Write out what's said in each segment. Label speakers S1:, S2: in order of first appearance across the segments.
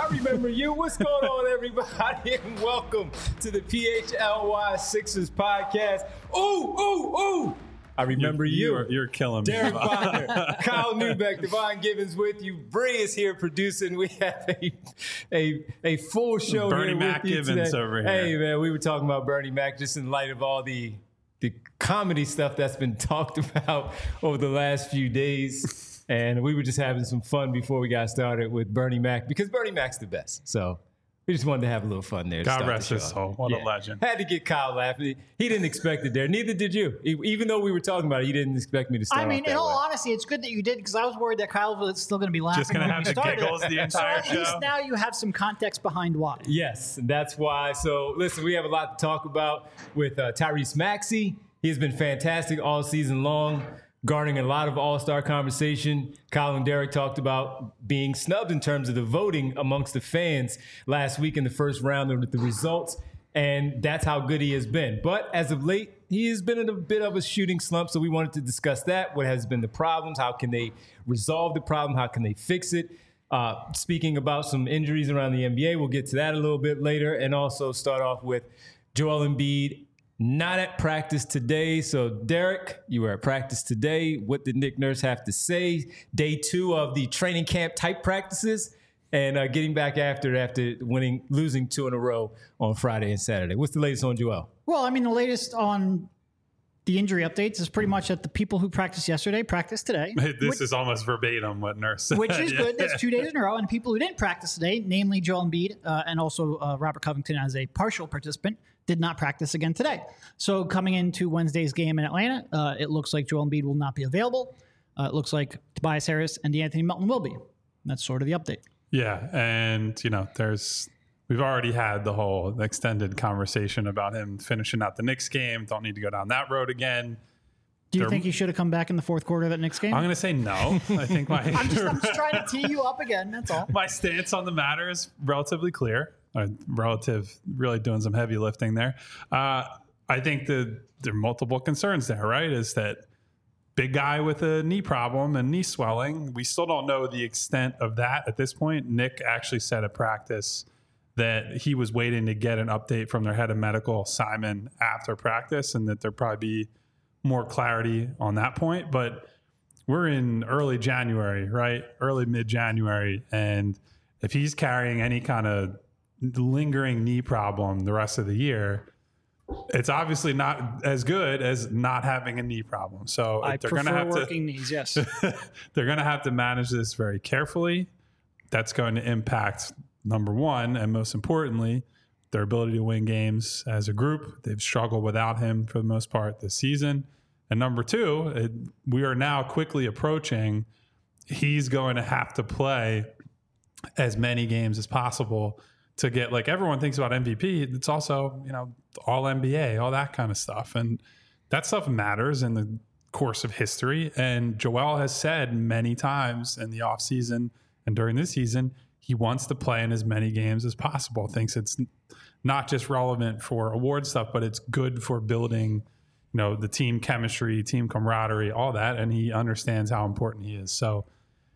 S1: I remember you. What's going on, everybody? And welcome to the PHLY Sixers podcast. Ooh. I remember you.
S2: You're killing me.
S1: Derek Bonner, Kyle Neubeck, Devon Gibbons with you. Bree is here producing. We have a full show
S2: Bernie
S1: here
S2: Mac
S1: with you
S2: Gibbons
S1: today.
S2: over here.
S1: Hey, man, we were talking about Bernie Mac just in light of all the comedy stuff that's been talked about over the last few days. And we were just having some fun before we got started with Bernie Mac because Bernie Mac's the best. So we just wanted to have a little fun there.
S2: God rest his soul. What a legend.
S1: Had to get Kyle laughing. He didn't expect it there. Neither did you. Even though we were talking about it, he didn't expect me to start.
S3: I mean,
S1: off that
S3: in all
S1: way.
S3: honesty, it's good that you did because I was worried that Kyle was still going to be laughing.
S2: Just going to
S3: when
S2: have
S3: we
S2: the
S3: started.
S2: giggles the entire
S3: At least
S2: show.
S3: now you have some context behind why.
S1: Yes, and that's why. So, listen, we have a lot to talk about with Tyrese Maxey. He has been fantastic all season long, garnering a lot of all-star conversation. Kyle and Derek talked about being snubbed in terms of the voting amongst the fans last week in the first round with the results, and that's how good he has been. But as of late, he has been in a bit of a shooting slump, so we wanted to discuss that. What has been the problems? How can they resolve the problem? How can they fix it? Speaking about some injuries around the NBA, we'll get to that a little bit later, and also start off with Joel Embiid not at practice today. So, Derek, you were at practice today. What did Nick Nurse have to say? Day 2 of the training camp type practices and getting back after losing 2 in a row on Friday and Saturday. What's the latest on Joel?
S3: Well, I mean, the latest on the injury updates is pretty much that the people who practiced yesterday practiced today.
S2: This is almost verbatim what Nurse said.
S3: Which is
S2: Yeah.
S3: good. That's 2 days in a row. And people who didn't practice today, namely Joel Embiid and also Robert Covington as a partial participant, did not practice again today. So coming into Wednesday's game in Atlanta, it looks like Joel Embiid will not be available. It looks like Tobias Harris and DeAnthony Melton will be. That's sort of the update.
S2: Yeah, and we've already had the whole extended conversation about him finishing out the Knicks game. Don't need to go down that road again.
S3: Do you think he should have come back in the fourth quarter of that Knicks game?
S2: I'm going to say no. I think
S3: I'm just trying to tee you up again. That's all.
S2: my stance on the matter is relatively clear. Really doing some heavy lifting there. I think there are multiple concerns there, right? Is that big guy with a knee problem and knee swelling. We still don't know the extent of that at this point. Nick actually said at practice that he was waiting to get an update from their head of medical, Simon, after practice, and that there'd probably be more clarity on that point. But we're in early January, right? Early mid-January. And if he's carrying any kind of lingering knee problem the rest of the year, it's obviously not as good as not having a knee problem. So
S3: I
S2: they're going to
S3: prefer
S2: have
S3: working knees, yes.
S2: they're going to have to manage this very carefully. That's going to impact, number one, and most importantly, their ability to win games as a group. They've struggled without him for the most part this season. And number two, we are now quickly approaching, he's going to have to play as many games as possible to get, like, everyone thinks about MVP. It's also, all NBA, all that kind of stuff. And that stuff matters in the course of history. And Joel has said many times in the offseason and during this season, he wants to play in as many games as possible. Thinks it's not just relevant for award stuff, but it's good for building, the team chemistry, team camaraderie, all that. And he understands how important he is. So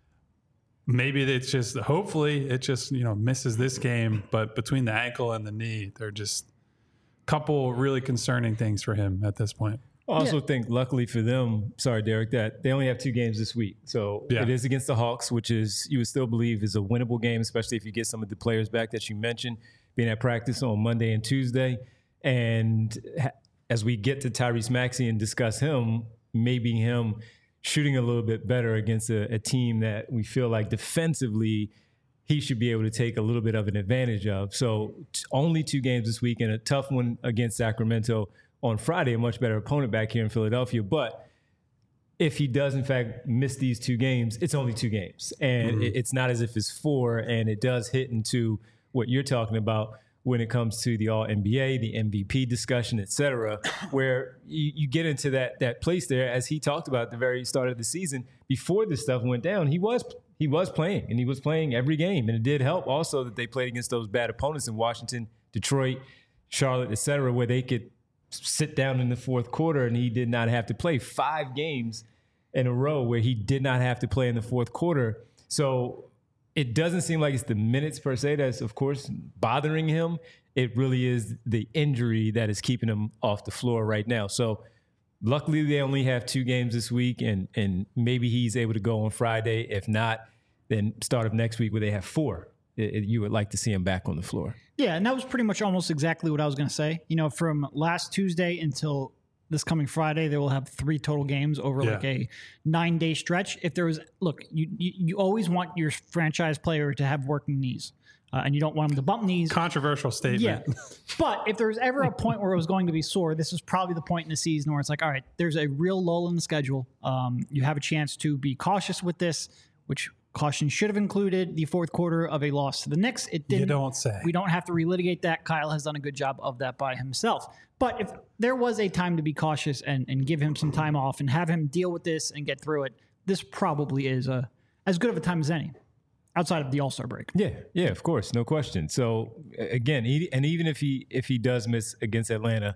S2: maybe hopefully it just misses this game, but between the ankle and the knee, they're just a couple really concerning things for him at this point.
S1: I also think, luckily for them, sorry, Derek, that they only have 2 games this week. So It is against the Hawks, which is, you would still believe, is a winnable game, especially if you get some of the players back that you mentioned being at practice on Monday and Tuesday. And as we get to Tyrese Maxey and discuss him, maybe him shooting a little bit better against a team that we feel like defensively he should be able to take a little bit of an advantage of. So only 2 games this week and a tough one against Sacramento on Friday, a much better opponent back here in Philadelphia. But if he does, in fact, miss these 2 games, it's only 2 games. And it's not as if it's 4, and it does hit into what you're talking about when it comes to the All-NBA, the MVP discussion, et cetera, where you get into that place there, as he talked about at the very start of the season. Before this stuff went down, he was playing, and he was playing every game. And it did help also that they played against those bad opponents in Washington, Detroit, Charlotte, et cetera, where they could sit down in the fourth quarter and he did not have to play. 5 games in a row where he did not have to play in the fourth quarter. So it doesn't seem like it's the minutes per se that's, of course, bothering him. It really is the injury that is keeping him off the floor right now. So luckily they only have 2 games this week, and maybe he's able to go on Friday. If not, then start of next week where they have 4. You would like to see him back on the floor.
S3: Yeah, and that was pretty much almost exactly what I was going to say. From last Tuesday until this coming Friday, they will have 3 total games over like a 9-day stretch. If there was, look, you always want your franchise player to have working knees. And you don't want them to bump knees.
S2: Controversial statement.
S3: Yeah. But if there's ever a point where it was going to be sore, this is probably the point in the season where it's like, all right, there's a real lull in the schedule. You have a chance to be cautious with this, which caution should have included the fourth quarter of a loss to the Knicks. It didn't.
S2: You don't say.
S3: We don't have to relitigate that. Kyle has done a good job of that by himself. But if there was a time to be cautious and give him some time off and have him deal with this and get through it, this probably is as good of a time as any. Outside of the All-Star break.
S1: Yeah, of course, no question. So again, even if he does miss against Atlanta,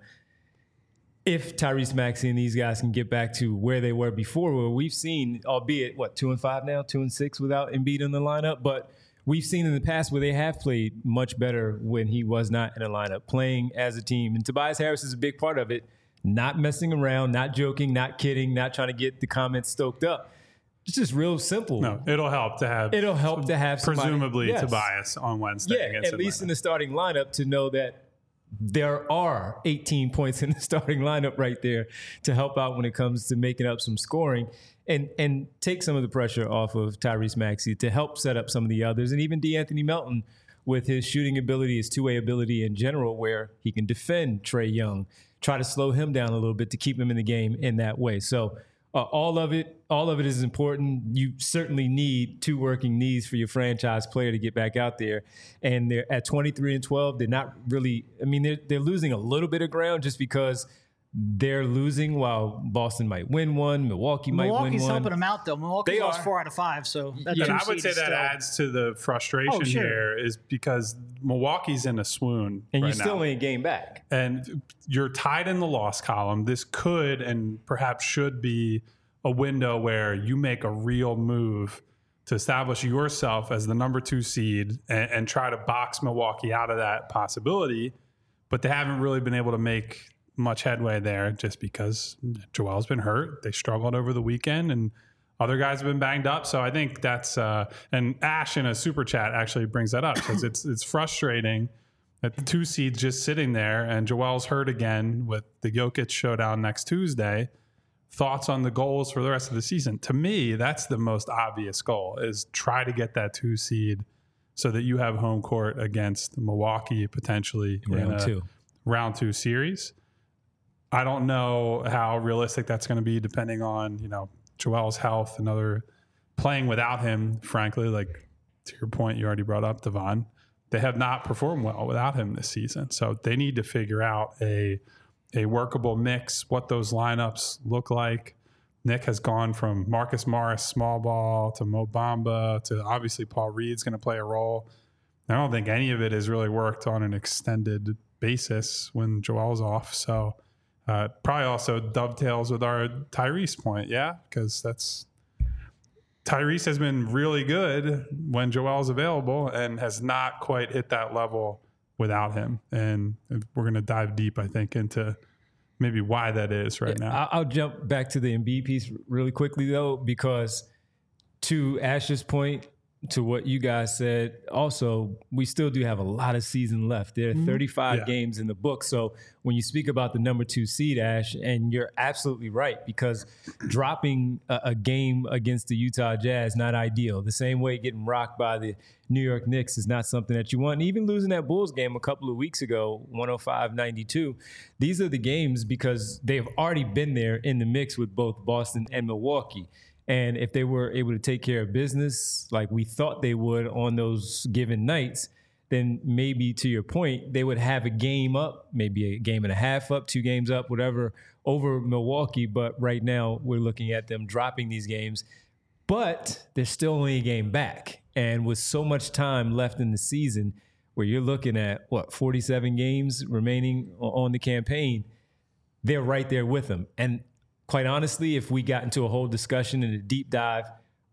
S1: if Tyrese Maxey and these guys can get back to where they were before, where we've seen, albeit 2-5 now, 2-6 without Embiid in the lineup, but we've seen in the past where they have played much better when he was not in a lineup, playing as a team. And Tobias Harris is a big part of it, not messing around, not joking, not kidding, not trying to get the comments stoked up. It's just real simple.
S2: No, it'll help to have
S1: somebody,
S2: presumably Tobias on Wednesday.
S1: Yeah,
S2: against
S1: at least in the starting lineup, to know that there are 18 points in the starting lineup right there to help out when it comes to making up some scoring and take some of the pressure off of Tyrese Maxey to help set up some of the others, and even DeAnthony Melton with his shooting ability, his two-way ability in general, where he can defend Trae Young, try to slow him down a little bit to keep him in the game in that way. So all of it is important. You certainly need 2 working knees for your franchise player to get back out there. And they're at 23-12. They're not really, they're losing a little bit of ground just because they're losing while Boston might win one. Milwaukee might win one.
S3: Milwaukee's helping them out, though. Milwaukee lost 4 out of 5. So
S2: and I would say that adds to the frustration here, is because Milwaukee's in a swoon.
S1: And
S2: right
S1: you still
S2: now.
S1: ain't game back.
S2: And you're tied in the loss column. This could and perhaps should be a window where you make a real move to establish yourself as the number 2 seed and try to box Milwaukee out of that possibility. But they haven't really been able to make much headway there just because Joel's been hurt. They struggled over the weekend and other guys have been banged up. So I think that's and Ash in a super chat actually brings that up because it's frustrating that the 2 seeds just sitting there and Joel's hurt again with the Jokic showdown next Tuesday. Thoughts on the goals for the rest of the season? To me, that's the most obvious goal, is try to get that 2 seed so that you have home court against Milwaukee potentially in round 2 series. I don't know how realistic that's going to be depending on, Joel's health and other playing without him, frankly, like to your point, you already brought up Devon. They have not performed well without him this season. So they need to figure out a workable mix, what those lineups look like. Nick has gone from Marcus Morris, small ball, to Mo Bamba, to obviously Paul Reed's going to play a role. I don't think any of it has really worked on an extended basis when Joel's off. So probably also dovetails with our Tyrese point, because Tyrese has been really good when Joel's available and has not quite hit that level without him. And we're going to dive deep, I think, into maybe why that is now.
S1: I'll jump back to the Embiid piece really quickly, though, because to Ash's point, to what you guys said, also, we still do have a lot of season left. There are 35 games in the book. So when you speak about the number 2 seed, Ash, and you're absolutely right, because dropping a game against the Utah Jazz, not ideal. The same way getting rocked by the New York Knicks is not something that you want. And even losing that Bulls game a couple of weeks ago, 105-92, these are the games because they've already been there in the mix with both Boston and Milwaukee. And if they were able to take care of business like we thought they would on those given nights, then maybe, to your point, they would have a game up, maybe a game and a half up, 2 games up, whatever, over Milwaukee. But right now we're looking at them dropping these games. But there's still only a game back. And with so much time left in the season where you're looking at, 47 games remaining on the campaign, they're right there with them. And quite honestly, if we got into a whole discussion and a deep dive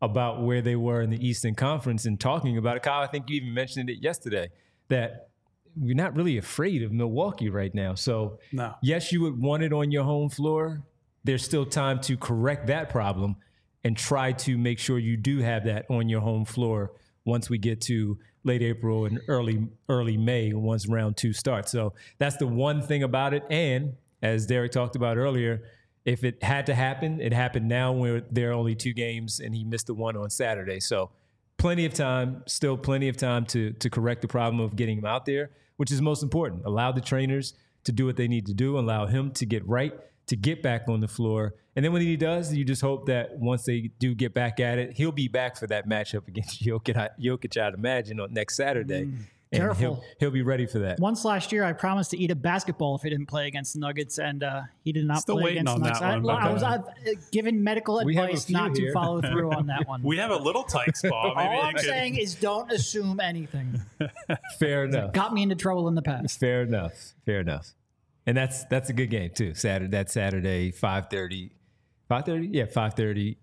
S1: about where they were in the Eastern Conference and talking about it. Kyle, I think you even mentioned it yesterday, that we're not really afraid of Milwaukee right now. So,
S2: no.
S1: Yes, you would want it on your home floor. There's still time to correct that problem and try to make sure you do have that on your home floor once we get to late April and early May once round 2 starts. So that's the one thing about it. And as Derek talked about earlier, if it had to happen, it happened now when there are only 2 games and he missed the one on Saturday. So plenty of time, still plenty of time to correct the problem of getting him out there, which is most important. Allow the trainers to do what they need to do, allow him to get right, to get back on the floor. And then when he does, you just hope that once they do get back at it, he'll be back for that matchup against Jokic, I'd imagine, on next Saturday. And
S3: Careful.
S1: He'll be ready for that.
S3: Once last year, I promised to eat a basketball if he didn't play against the Nuggets, and he did not
S2: Still
S3: play
S2: waiting
S3: against
S2: on
S3: the Nuggets.
S2: that one,
S3: I've given medical
S1: We have a
S3: advice
S1: few
S3: not
S1: here.
S3: to follow through on that one.
S2: We have a little tight spot. Maybe
S3: All
S2: you
S3: I'm
S2: could-
S3: saying is don't assume anything.
S1: Fair enough.
S3: Got me into trouble in the past.
S1: Fair enough. And that's a good game too. Saturday, 5:30. 5:30? Yeah, 5:30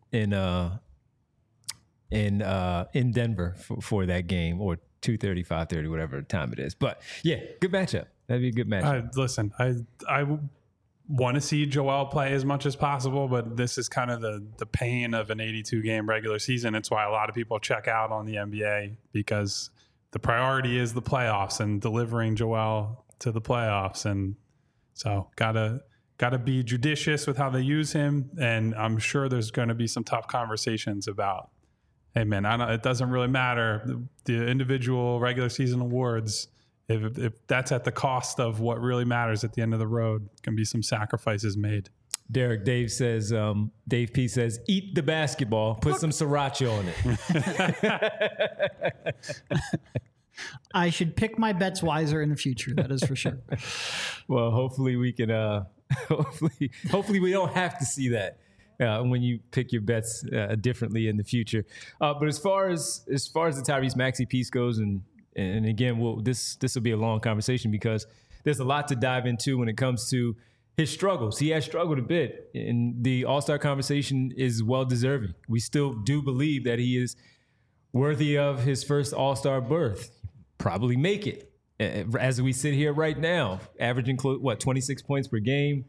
S1: in Denver for that game, or 2:30, 5:30, whatever time it is. But yeah, good matchup. That'd be a good matchup.
S2: Listen, I want to see Joel play as much as possible, but this is kind of the pain of an 82-game regular season. It's why a lot of people check out on the NBA, because the priority is the playoffs and delivering Joel to the playoffs. And so gotta be judicious with how they use him. And I'm sure there's going to be some tough conversations about, hey man, it doesn't really matter. The individual regular season awards, if that's at the cost of what really matters at the end of the road, can be some sacrifices made.
S1: Dave P says, eat the basketball, put some sriracha on it.
S3: I should pick my bets wiser in the future. That is for sure.
S1: Well, hopefully we can, hopefully we don't have to see that when you pick your bets differently in the future. But as far as the Tyrese Maxey piece goes, and again, this will be a long conversation because there's a lot to dive into when it comes to his struggles. He has struggled a bit, and the All-Star conversation is well deserving. We still do believe that he is worthy of his first All-Star berth. Probably make it. As we sit here right now, averaging 26 points per game,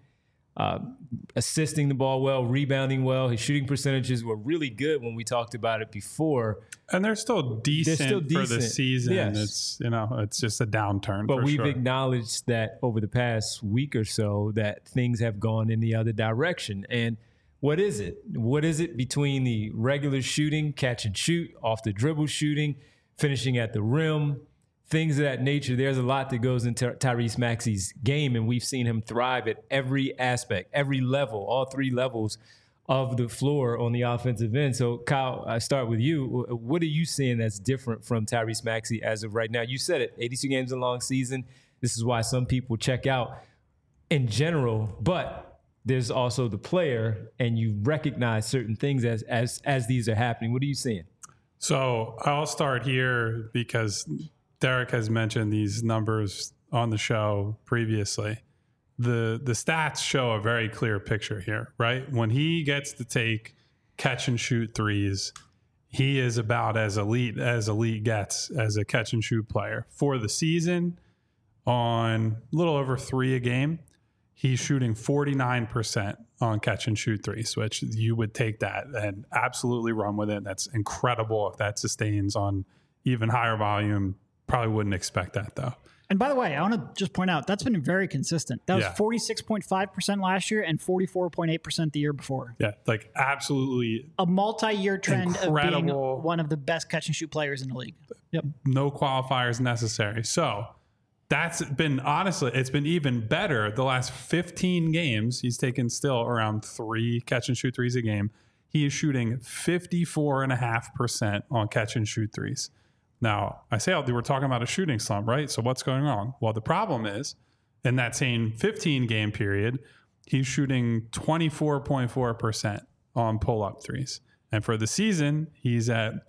S1: assisting the ball well, rebounding well. His shooting percentages were really good when we talked about it before.
S2: And they're still decent for the season.
S1: Yes.
S2: It's just a downturn.
S1: But we've
S2: sure.
S1: acknowledged that over the past week or so that things have gone in the other direction. And what is it? What is it between the regular shooting, catch and shoot, off the dribble shooting, finishing at the rim, things of that nature? There's a lot that goes into Tyrese Maxey's game, and we've seen him thrive at every aspect, every level, all 3 levels of the floor on the offensive end. So, Kyle, I start with you. What are you seeing that's different from Tyrese Maxey as of right now? You said it, 82 games in a long season. This is why some people check out in general, but there's also the player, and you recognize certain things as these are happening. What are you seeing?
S2: So I'll start here because Derek has mentioned these numbers on the show previously. The stats show a very clear picture here, right? When he gets to take catch and shoot threes, he is about as elite gets as a catch and shoot player. For the season, on a little over 3 a game, he's shooting 49% on catch and shoot threes, which you would take that and absolutely run with it. That's incredible if that sustains on even higher volume. Probably wouldn't expect that though.
S3: And by the way, I want to just point out that's been very consistent. That was 46.5% last year and 44.8% the year before.
S2: Yeah, like absolutely
S3: a multi-year trend
S2: incredible.
S3: Of being one of the best catch and shoot players in the league. Yep.
S2: No qualifiers necessary. So that's been, honestly, it's been even better. The last 15 games, he's taken still around 3 catch and shoot threes a game. He is shooting 54.5% on catch and shoot threes. Now, I say we're talking about a shooting slump, right? So what's going on? Well, the problem is in that same 15-game period, he's shooting 24.4% on pull-up threes. And for the season, he's at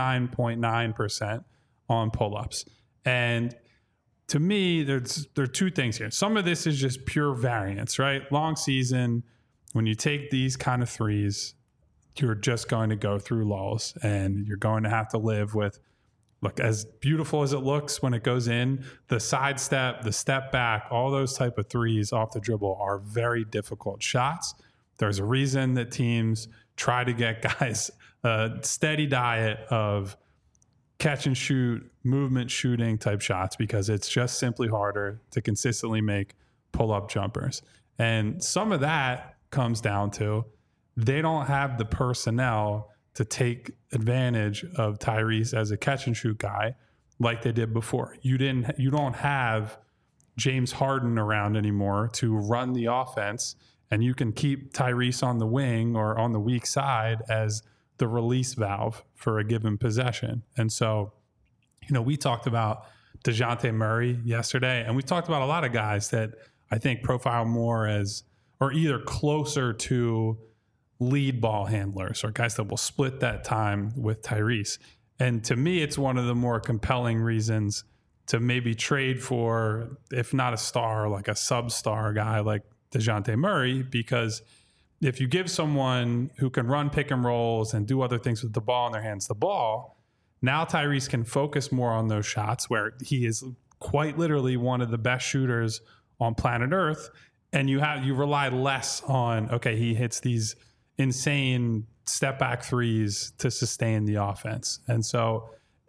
S2: 29.9% on pull-ups. And to me, there are 2 things here. Some of this is just pure variance, right? Long season, when you take these kind of threes, you're just going to go through lulls, and you're going to have to live with, look, as beautiful as it looks when it goes in, the sidestep, the step back, all those type of threes off the dribble are very difficult shots. There's a reason that teams try to get guys a steady diet of catch and shoot, movement shooting type shots, because it's just simply harder to consistently make pull-up jumpers. And some of that comes down to they don't have the personnel to take advantage of Tyrese as a catch and shoot guy like they did before. You don't have James Harden around anymore to run the offense, and you can keep Tyrese on the wing or on the weak side as the release valve for a given possession. And so, we talked about DeJounte Murray yesterday, and we talked about a lot of guys that I think profile more as, or either closer to lead ball handlers, or guys that will split that time with Tyrese. And to me, it's one of the more compelling reasons to maybe trade for, if not a star, like a sub-star guy like DeJounte Murray, because if you give someone who can run pick and rolls and do other things with the ball in their hands the ball, now Tyrese can focus more on those shots where he is quite literally one of the best shooters on planet Earth. And you rely less on, okay, he hits these insane step back threes to sustain the offense. And so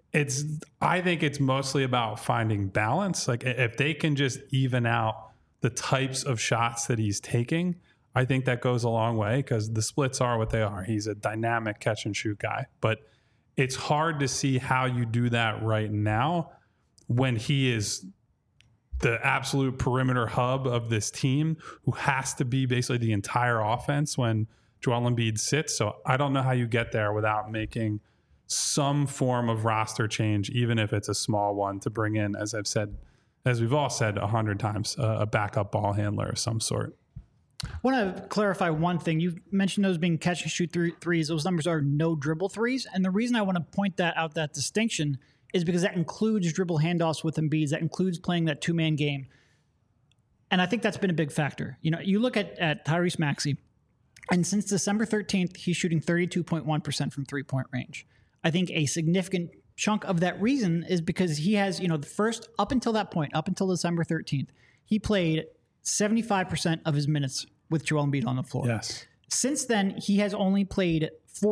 S2: I think it's mostly about finding balance. Like if they can just even out the types of shots that he's taking, I think that goes a long way, because the splits are what they are. He's a dynamic catch and shoot guy, but it's hard to see how you do that right now when he is the absolute perimeter hub of this team, who has to be basically the entire offense when Joel Embiid sits. So I don't know how you get there without making some form of roster change, even if it's a small one, to bring in, as we've all said 100 times, a backup ball handler of some sort.
S3: I want to clarify one thing. You mentioned those being catch and shoot threes. Those numbers are no dribble threes. And the reason I want to point that distinction is because that includes dribble handoffs with Embiid. That includes playing that two-man game. And I think that's been a big factor. You look at Tyrese Maxey, and since December 13th, he's shooting 32.1% from three-point range. I think a significant chunk of that reason is because he has, the first, up until that point, up until December 13th, he played 75% of his minutes with Joel Embiid on the floor.
S2: Yes.
S3: Since then, he has only played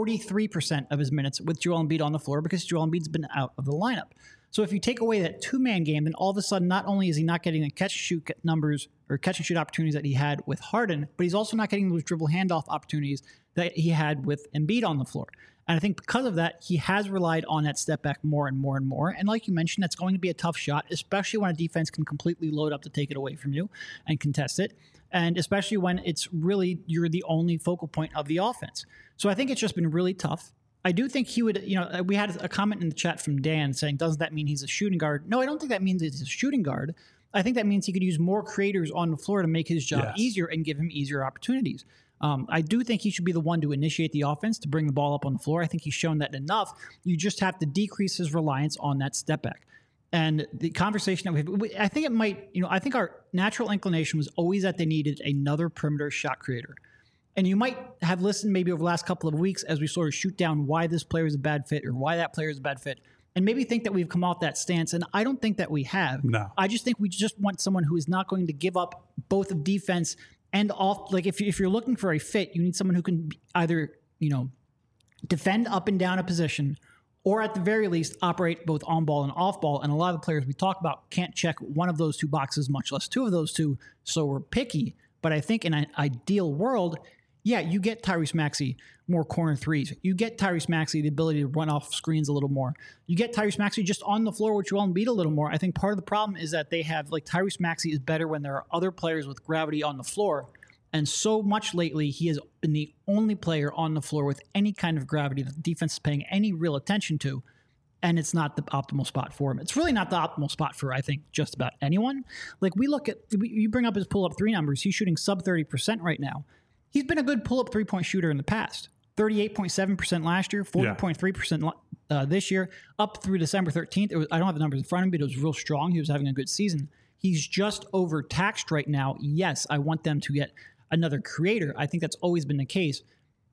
S3: 43% of his minutes with Joel Embiid on the floor because Joel Embiid's been out of the lineup. So if you take away that two-man game, then all of a sudden, not only is he not getting the catch-and-shoot numbers or catch-and-shoot opportunities that he had with Harden, but he's also not getting those dribble handoff opportunities that he had with Embiid on the floor. And I think because of that, he has relied on that step back more and more and more. And like you mentioned, that's going to be a tough shot, especially when a defense can completely load up to take it away from you and contest it. And especially when it's really, you're the only focal point of the offense. So I think it's just been really tough. I do think he would, we had a comment in the chat from Dan saying, doesn't that mean he's a shooting guard? No, I don't think that means he's a shooting guard. I think that means he could use more creators on the floor to make his job easier and give him easier opportunities. I do think he should be the one to initiate the offense, to bring the ball up on the floor. I think he's shown that enough. You just have to decrease his reliance on that step back. And the conversation that I think it might, I think our natural inclination was always that they needed another perimeter shot creator. And you might have listened maybe over the last couple of weeks as we sort of shoot down why this player is a bad fit or why that player is a bad fit, and maybe think that we've come off that stance. And I don't think that we have.
S2: No.
S3: I just think we just want someone who is not going to give up both of defense and off. Like if you're looking for a fit, you need someone who can either, defend up and down a position, or at the very least operate both on ball and off ball. And a lot of the players we talk about can't check one of those two boxes, much less two of those two. So we're picky. But I think in an ideal world, you get Tyrese Maxey more corner threes. You get Tyrese Maxey the ability to run off screens a little more. You get Tyrese Maxey just on the floor with Joel Embiid a little more. I think part of the problem is that they have, Tyrese Maxey is better when there are other players with gravity on the floor. And so much lately, he has been the only player on the floor with any kind of gravity that the defense is paying any real attention to. And it's not the optimal spot for him. It's really not the optimal spot for, I think, just about anyone. You bring up his pull-up three numbers. He's shooting sub 30% right now. He's been a good pull-up three-point shooter in the past. 38.7% last year, 40.3% this year, up through December 13th. I don't have the numbers in front of me, but it was real strong. He was having a good season. He's just overtaxed right now. Yes, I want them to get another creator. I think that's always been the case.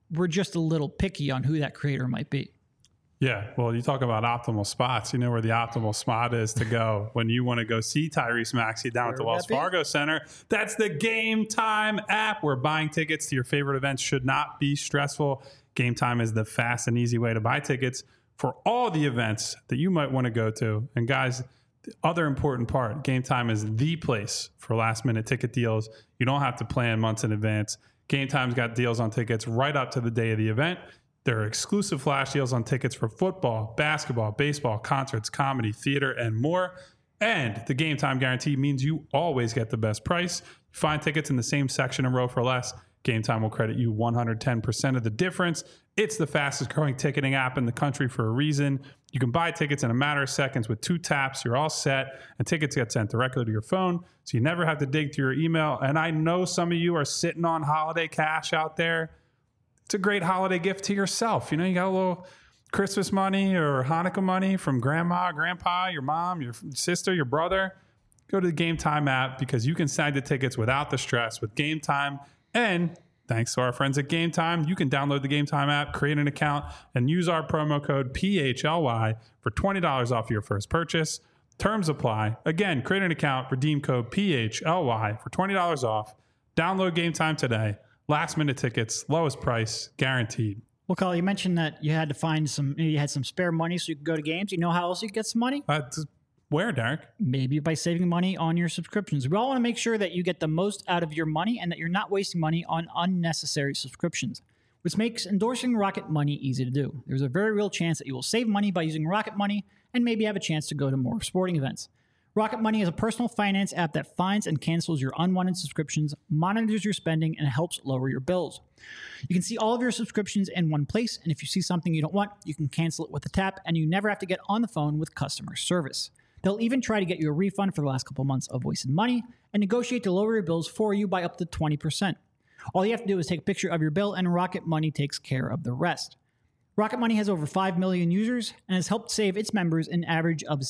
S3: we're just a little picky on who that creator might be.
S2: Yeah, well, you talk about optimal spots. You know where the optimal spot is to go when you want to go see Tyrese Maxey down at the Wells Fargo Center. That's the Game Time app, where buying tickets to your favorite events should not be stressful. Game Time is the fast and easy way to buy tickets for all the events that you might want to go to. And guys, the other important part, Game Time is the place for last-minute ticket deals. You don't have to plan months in advance. Game Time's got deals on tickets right up to the day of the event. There are exclusive flash deals on tickets for football, basketball, baseball, concerts, comedy, theater, and more. And the Game Time guarantee means you always get the best price. Find tickets in the same section and row for less. Game Time will credit you 110% of the difference. It's the fastest growing ticketing app in the country for a reason. You can buy tickets in a matter of seconds with 2 taps. You're all set, and tickets get sent directly to your phone, so you never have to dig through your email. And I know some of you are sitting on holiday cash out there. It's a great holiday gift to yourself. You know, you got a little Christmas money or Hanukkah money from grandma, grandpa, your mom, your sister, your brother. Go to the Game Time app, because you can snag the tickets without the stress with Game Time. And thanks to our friends at Game Time, you can download the Game Time app, create an account, and use our promo code PHLY for $20 off your first purchase. Terms apply. Again, create an account, redeem code PHLY for $20 off. Download Game Time today. Last minute tickets, lowest price, guaranteed.
S3: Well, Kyle, you mentioned that you had to find you had some spare money so you could go to games. You know how else you could get some money?
S2: Where, Derek?
S3: Maybe by saving money on your subscriptions. We all want to make sure that you get the most out of your money and that you're not wasting money on unnecessary subscriptions, which makes endorsing Rocket Money easy to do. There's a very real chance that you will save money by using Rocket Money and maybe have a chance to go to more sporting events. Rocket Money is a personal finance app that finds and cancels your unwanted subscriptions, monitors your spending, and helps lower your bills. You can see all of your subscriptions in one place, and if you see something you don't want, you can cancel it with a tap, and you never have to get on the phone with customer service. They'll even try to get you a refund for the last couple months of wasted money and negotiate to lower your bills for you by up to 20%. All you have to do is take a picture of your bill, and Rocket Money takes care of the rest. Rocket Money has over 5 million users and has helped save its members an average of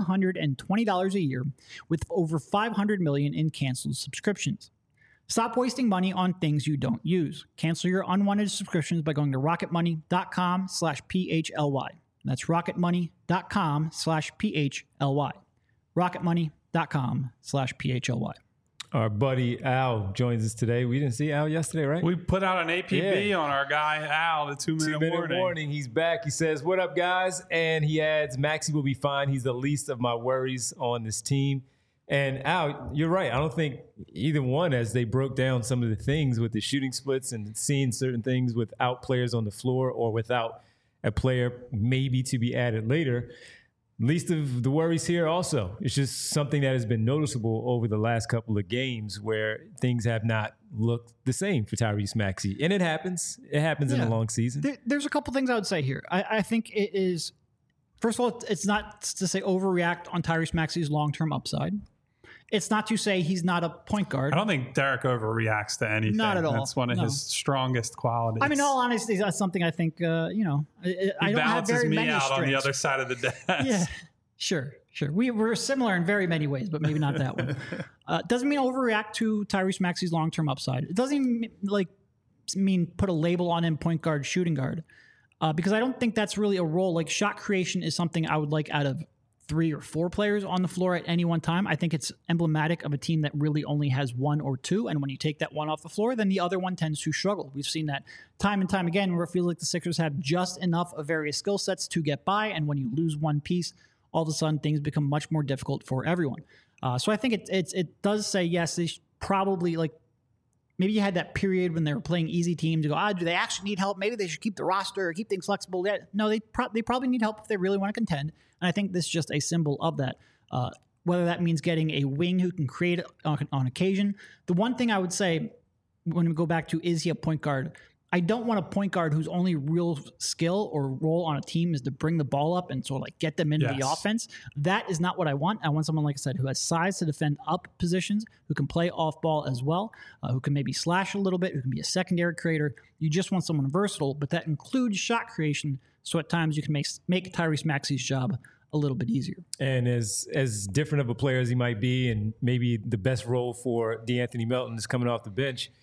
S3: $720 a year, with over 500 million in canceled subscriptions. Stop wasting money on things you don't use. Cancel your unwanted subscriptions by going to rocketmoney.com/PHLY. That's rocketmoney.com/PHLY. rocketmoney.com/PHLY.
S1: Our buddy Al joins us today. We didn't see Al yesterday, right?
S2: We put out an APB on our guy Al, the 2-minute warning.
S1: He's back. He says, "What up, guys?" And he adds, "Maxey will be fine. He's the least of my worries on this team." And Al, you're right. I don't think either one, as they broke down some of the things with the shooting splits and seeing certain things without players on the floor or without a player maybe to be added later. Least of the worries here also. It's just something that has been noticeable over the last couple of games where things have not looked the same for Tyrese Maxey. And it happens. It happens in a long season.
S3: There's a couple things I would say here. I think it is, first of all, it's not to say overreact on Tyrese Maxey's long-term upside. It's not to say he's not a point guard.
S2: I don't think Derek overreacts to anything.
S3: Not at all.
S2: That's one of his strongest qualities.
S3: I mean, in all honesty, that's something I think, I don't have very many
S2: out
S3: strengths.
S2: On the other side of the desk.
S3: Yeah, sure. We're similar in very many ways, but maybe not that one. Doesn't mean overreact to Tyrese Maxey's long-term upside. It doesn't even mean put a label on him, point guard, shooting guard, because I don't think that's really a role. Like, shot creation is something I would like out of 3 or 4 players on the floor at any one time. I think it's emblematic of a team that really only has 1 or 2. And when you take that one off the floor, then the other one tends to struggle. We've seen that time and time again, where it feels like the Sixers have just enough of various skill sets to get by. And when you lose one piece, all of a sudden things become much more difficult for everyone. So I think it does say, yes, they probably, like, maybe you had that period when they were playing easy teams. You go, do they actually need help? Maybe they should keep the roster or keep things flexible. No, they probably need help if they really want to contend. And I think this is just a symbol of that. Whether that means getting a wing who can create on occasion. The one thing I would say, when we go back to, is he a point guard? I don't want a point guard whose only real skill or role on a team is to bring the ball up and sort of like get them into the offense. That is not what I want. I want someone, like I said, who has size to defend up positions, who can play off ball as well, who can maybe slash a little bit, who can be a secondary creator. You just want someone versatile, but that includes shot creation. So at times you can make Tyrese Maxey's job a little bit easier.
S1: And as different of a player as he might be, and maybe the best role for DeAnthony Melton is coming off the bench,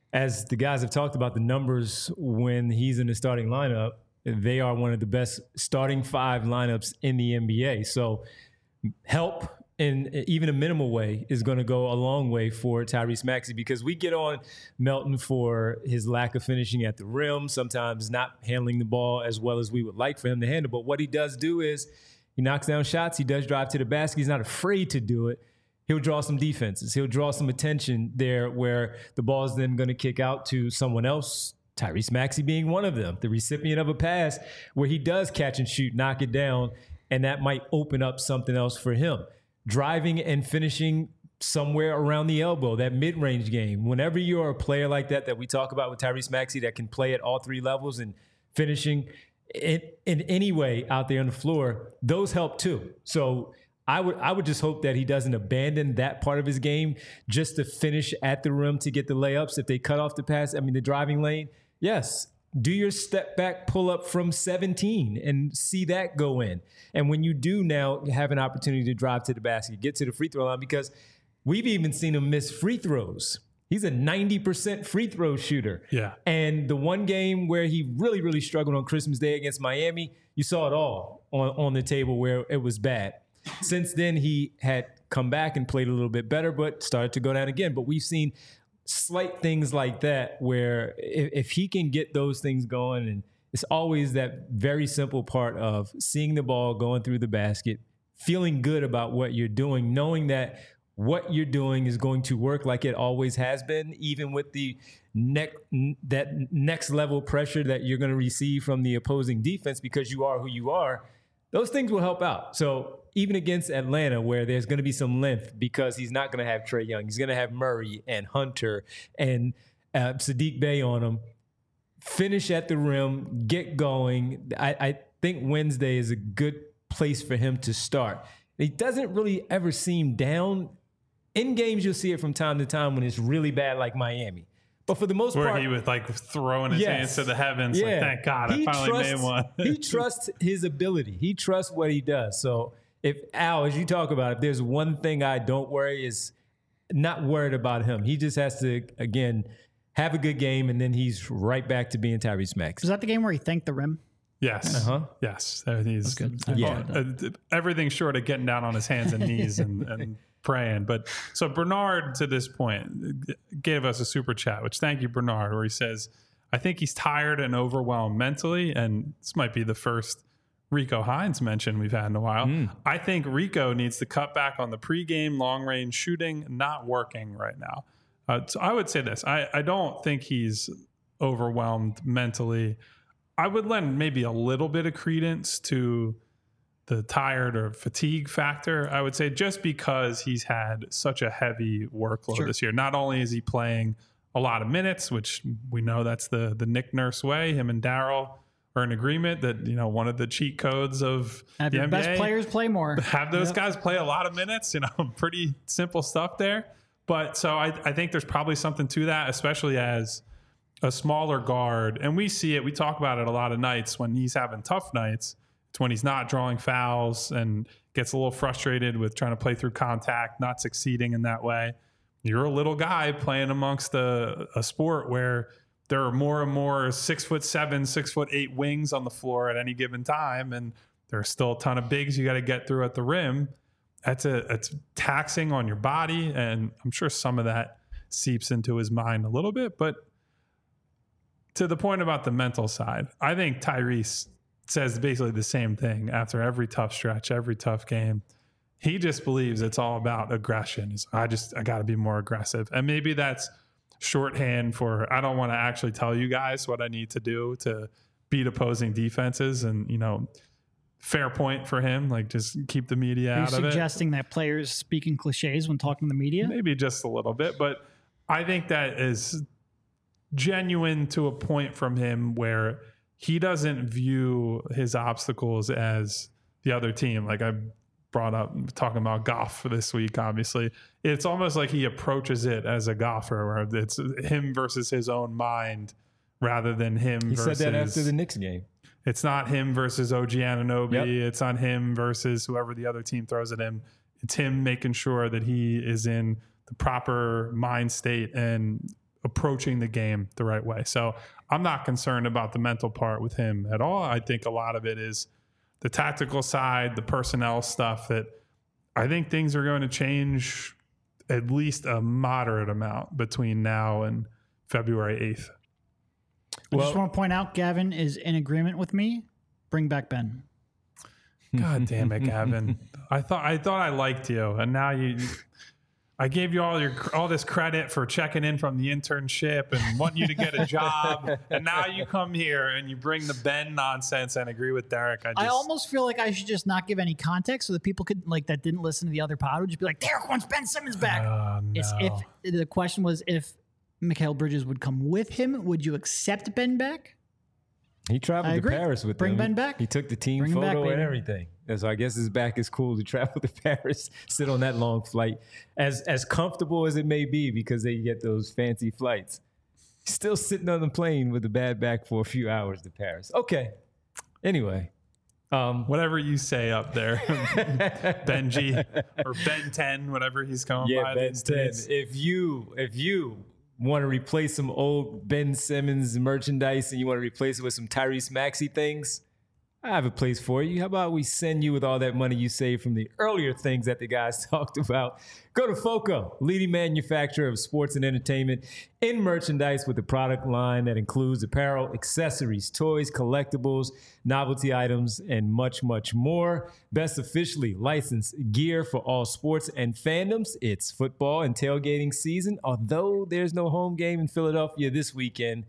S1: as the guys have talked about the numbers when he's in the starting lineup, they are one of the best starting 5 lineups in the NBA. So help in even a minimal way is going to go a long way for Tyrese Maxey, because we get on Melton for his lack of finishing at the rim, sometimes not handling the ball as well as we would like for him to handle. But what he does do is he knocks down shots. He does drive to the basket. He's not afraid to do it. He'll draw some defenses. He'll draw some attention there where the ball is then going to kick out to someone else, Tyrese Maxey being one of them, the recipient of a pass where he does catch and shoot, knock it down, and that might open up something else for him. Driving and finishing somewhere around the elbow, that mid-range game. Whenever you're a player like that we talk about with Tyrese Maxey that can play at all 3 levels and finishing in any way out there on the floor, those help too. So I would just hope that he doesn't abandon that part of his game just to finish at the rim to get the layups. If they cut off the pass, the driving lane, yes, do your step back pull up from 17 and see that go in. And when you do now have an opportunity to drive to the basket, get to the free throw line, because we've even seen him miss free throws. He's a 90% free throw shooter.
S2: Yeah.
S1: And the one game where he really, really struggled on Christmas Day against Miami, you saw it all on the table where it was bad. Since then, he had come back and played a little bit better, but started to go down again. But we've seen slight things like that where if he can get those things going, and it's always that very simple part of seeing the ball going through the basket, feeling good about what you're doing, knowing that what you're doing is going to work like it always has been, even with the next level pressure that you're going to receive from the opposing defense because you are who you are. Those things will help out. So even against Atlanta, where there's going to be some length because he's not going to have Trae Young, he's going to have Murray and Hunter and Saddiq Bey on him. Finish at the rim, get going. I think Wednesday is a good place for him to start. He doesn't really ever seem down. In games, you'll see it from time to time when it's really bad, like Miami. But for the most part,
S2: where he was like throwing his hands to the heavens, like, thank God, I finally made one.
S1: He trusts his ability. He trusts what he does. So if Al, as you talk about, if there's one thing I don't worry is not worried about him. He just has to, again, have a good game, and then he's right back to being Tyrese Maxey.
S3: Was that the game where he thanked the rim?
S2: Yes. Yes. He's good. Everything short of getting down on his hands and knees and praying. But so Bernard, to this point, gave us a super chat, which thank you, Bernard, where he says, I think he's tired and overwhelmed mentally. And this might be the first Rico Hines mention we've had in a while. I think Rico needs to cut back on the pregame long range shooting, not working right now. So I would say this. I don't think he's overwhelmed mentally. I would lend maybe a little bit of credence to the tired or fatigue factor, I would say, just because he's had such a heavy workload this year. Not only is he playing a lot of minutes, which we know that's the Nick Nurse way. Him and Daryl are in agreement that, you know, one of the cheat codes of
S3: have
S2: the
S3: your
S2: NBA,
S3: best players play more.
S2: Have those guys play a lot of minutes, you know, pretty simple stuff there. But so I think there's probably something to that, especially as a smaller guard. And we see it, we talk about it a lot of nights when he's having tough nights. It's when he's not drawing fouls and gets a little frustrated with trying to play through contact, not succeeding in that way. You're a little guy playing amongst a sport where there are more and more 6'7", 6'8" wings on the floor at any given time. And there's still a ton of bigs you got to get through at the rim. It's taxing on your body. And I'm sure some of that seeps into his mind a little bit. But to the point about the mental side, I think Tyrese says basically the same thing after every tough stretch, every tough game. He just believes it's all about aggression. I got to be more aggressive. And maybe that's shorthand for, I don't want to actually tell you guys what I need to do to beat opposing defenses. And, you know, fair point for him. Like, just keep the media out of it.
S3: Are you suggesting that players speak in cliches when talking to the media?
S2: Maybe just a little bit. But I think that is genuine to a point from him where he doesn't view his obstacles as the other team. Like I brought up talking about golf this week, obviously. It's almost like he approaches it as a golfer where it's him versus his own mind rather than him versus...
S1: He said that after the Knicks game.
S2: It's not him versus OG Anunoby. Yep. It's not him versus whoever the other team throws at him. It's him making sure that he is in the proper mind state and approaching the game the right way. So I'm not concerned about the mental part with him at all. I think a lot of it is the tactical side, the personnel stuff, that I think things are going to change at least a moderate amount between now and February 8th.
S3: I just want to point out, Gavin is in agreement with me. Bring back Ben.
S2: God damn it, Gavin. I thought I liked you, and now I gave you all this credit for checking in from the internship and wanting you to get a job, and now you come here and you bring the Ben nonsense and agree with Derek.
S3: I almost feel like I should just not give any context so that people could, like, that didn't listen to the other pod would just be like, Derek wants Ben Simmons back.
S2: No.
S3: If the question was if Mikal Bridges would come with him, would you accept Ben back?
S1: He traveled to Paris with
S3: Bring
S1: them.
S3: Ben back.
S1: He took the team photo and everything. And so I guess his back is cool to travel to Paris, sit on that long flight, as comfortable as it may be because they get those fancy flights. Still sitting on the plane with a bad back for a few hours to Paris. Okay. Anyway.
S2: Whatever you say up there, Benji or Ben 10, whatever he's going by.
S1: Yeah, Ben 10. If you want to replace some old Ben Simmons merchandise and you want to replace it with some Tyrese Maxey things, I have a place for you. How about we send you with all that money you saved from the earlier things that the guys talked about? Go to FOCO, leading manufacturer of sports and entertainment in merchandise with a product line that includes apparel, accessories, toys, collectibles, novelty items, and much, much more. Best officially licensed gear for all sports and fandoms. It's football and tailgating season. Although there's no home game in Philadelphia this weekend,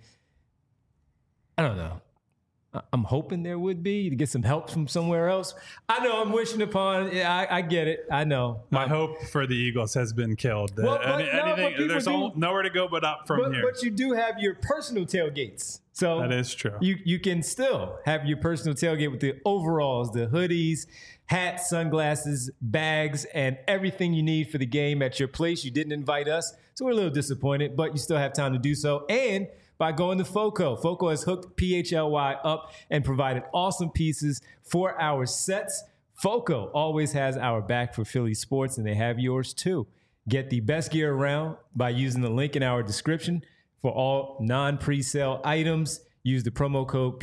S1: I don't know. I'm hoping there would be to get some help from somewhere else. I know I'm wishing upon. Yeah, I get it. I know.
S2: My hope for the Eagles has been killed. There's nowhere to go but up from here.
S1: But you do have your personal tailgates. So
S2: that is true.
S1: You can still have your personal tailgate with the overalls, the hoodies, hats, sunglasses, bags, and everything you need for the game at your place. You didn't invite us, so we're a little disappointed, but you still have time to do so. And by going to FOCO. FOCO has hooked PHLY up and provided awesome pieces for our sets. FOCO always has our back for Philly sports, and they have yours too. Get the best gear around by using the link in our description for all non-presale items. Use the promo code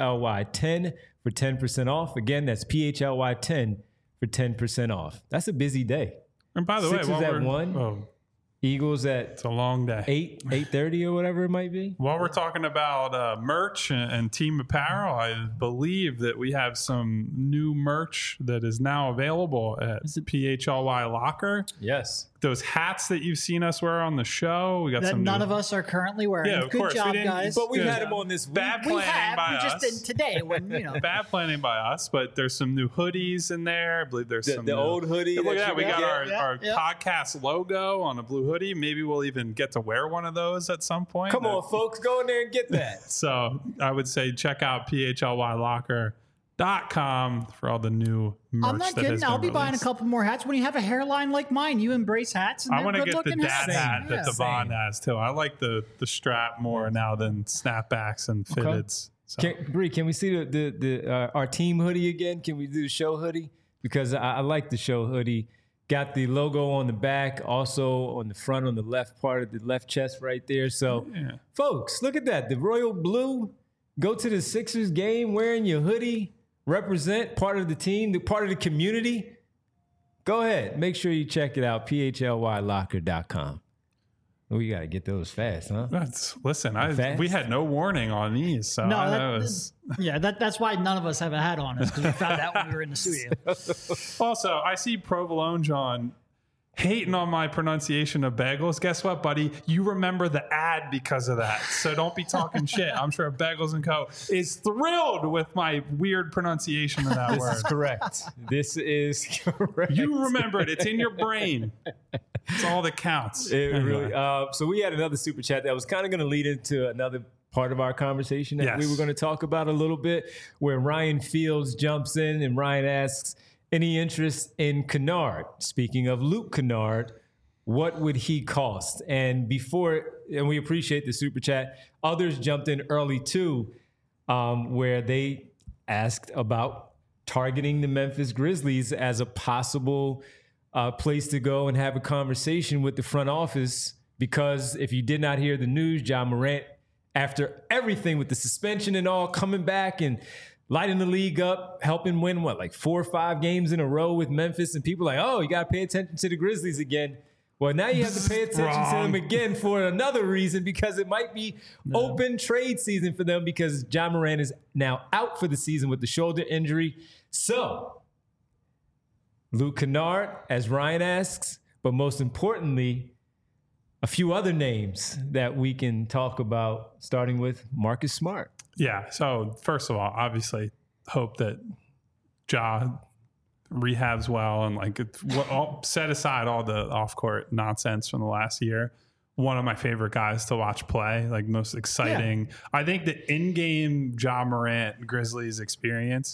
S1: PHLY10 for 10% off. Again, that's PHLY10 for 10% off. That's a busy day.
S2: And by the
S1: Sixers
S2: way,
S1: at 1. Eagles at
S2: it's a long day.
S1: 8:30 or whatever it might be.
S2: While we're talking about merch and team apparel, I believe that we have some new merch that is now available at PHLY Locker.
S1: Yes.
S2: Those hats that you've seen us wear on the show. We got
S3: that
S2: some
S3: none of us are currently wearing.
S2: Yeah, of
S3: Good
S2: course.
S3: job, guys.
S1: But we've had them on this
S2: bad planning by us.
S3: We just did today when, you know.
S2: Bad planning by us, but there's some new hoodies in there. I believe there's some
S1: the old hoodie.
S2: Look at that. We got our podcast logo on a blue hoodie. Maybe we'll even get to wear one of those at some point.
S1: Come on, folks. Go in there and get that.
S2: So I would say check out PHLYlocker.com for all the new merch.
S3: I'm not kidding. I'll be buying a couple more hats. When you have a hairline like mine, you embrace hats. And
S2: I want to get the dad
S3: hats.
S2: hat that Devon has too. I like the strap more now than snapbacks and fitteds. So.
S1: Bree, can we see our team hoodie again? Can we do the show hoodie? Because I like the show hoodie. Got the logo on the back, also on the front, on the left part of the left chest right there. So, folks, look at that. The royal blue. Go to the Sixers game wearing your hoodie. Represent part of the team, part of the community. Go ahead. Make sure you check it out. PHLYlocker.com. We got to get those fast, huh?
S2: Listen, we had no warning on these. So
S3: that's why none of us have a hat on us, because we found out when we were in the studio.
S2: Also, I see Provolone John hating on my pronunciation of bagels. Guess what, buddy? You remember the ad because of that. So don't be talking shit. I'm sure Bagels & Co. is thrilled with my weird pronunciation of that word.
S1: This is correct. This is correct.
S2: You remember it. It's in your brain. It's all that counts.
S1: Really. So we had another super chat that was kind of going to lead into another part of our conversation that we were going to talk about a little bit, where Ryan Fields jumps in and Ryan asks, any interest in Kennard? Speaking of Luke Kennard, what would he cost? And we appreciate the super chat. Others jumped in early too, where they asked about targeting the Memphis Grizzlies as a possible place to go and have a conversation with the front office because if you did not hear the news, Ja Morant, after everything with the suspension and all, coming back and lighting the league up, helping win, 4 or 5 games in a row with Memphis, and people are like, oh, you got to pay attention to the Grizzlies again. Well, now you have to pay attention to them again for another reason, because it might be open trade season for them, because Ja Morant is now out for the season with the shoulder injury. So, Luke Kennard, as Ryan asks, but most importantly, a few other names that we can talk about, starting with Marcus Smart.
S2: Yeah. So first of all, obviously hope that Ja rehabs well and set aside all the off-court nonsense from the last year. One of my favorite guys to watch play, most exciting. Yeah. I think the in-game Ja Morant Grizzlies experience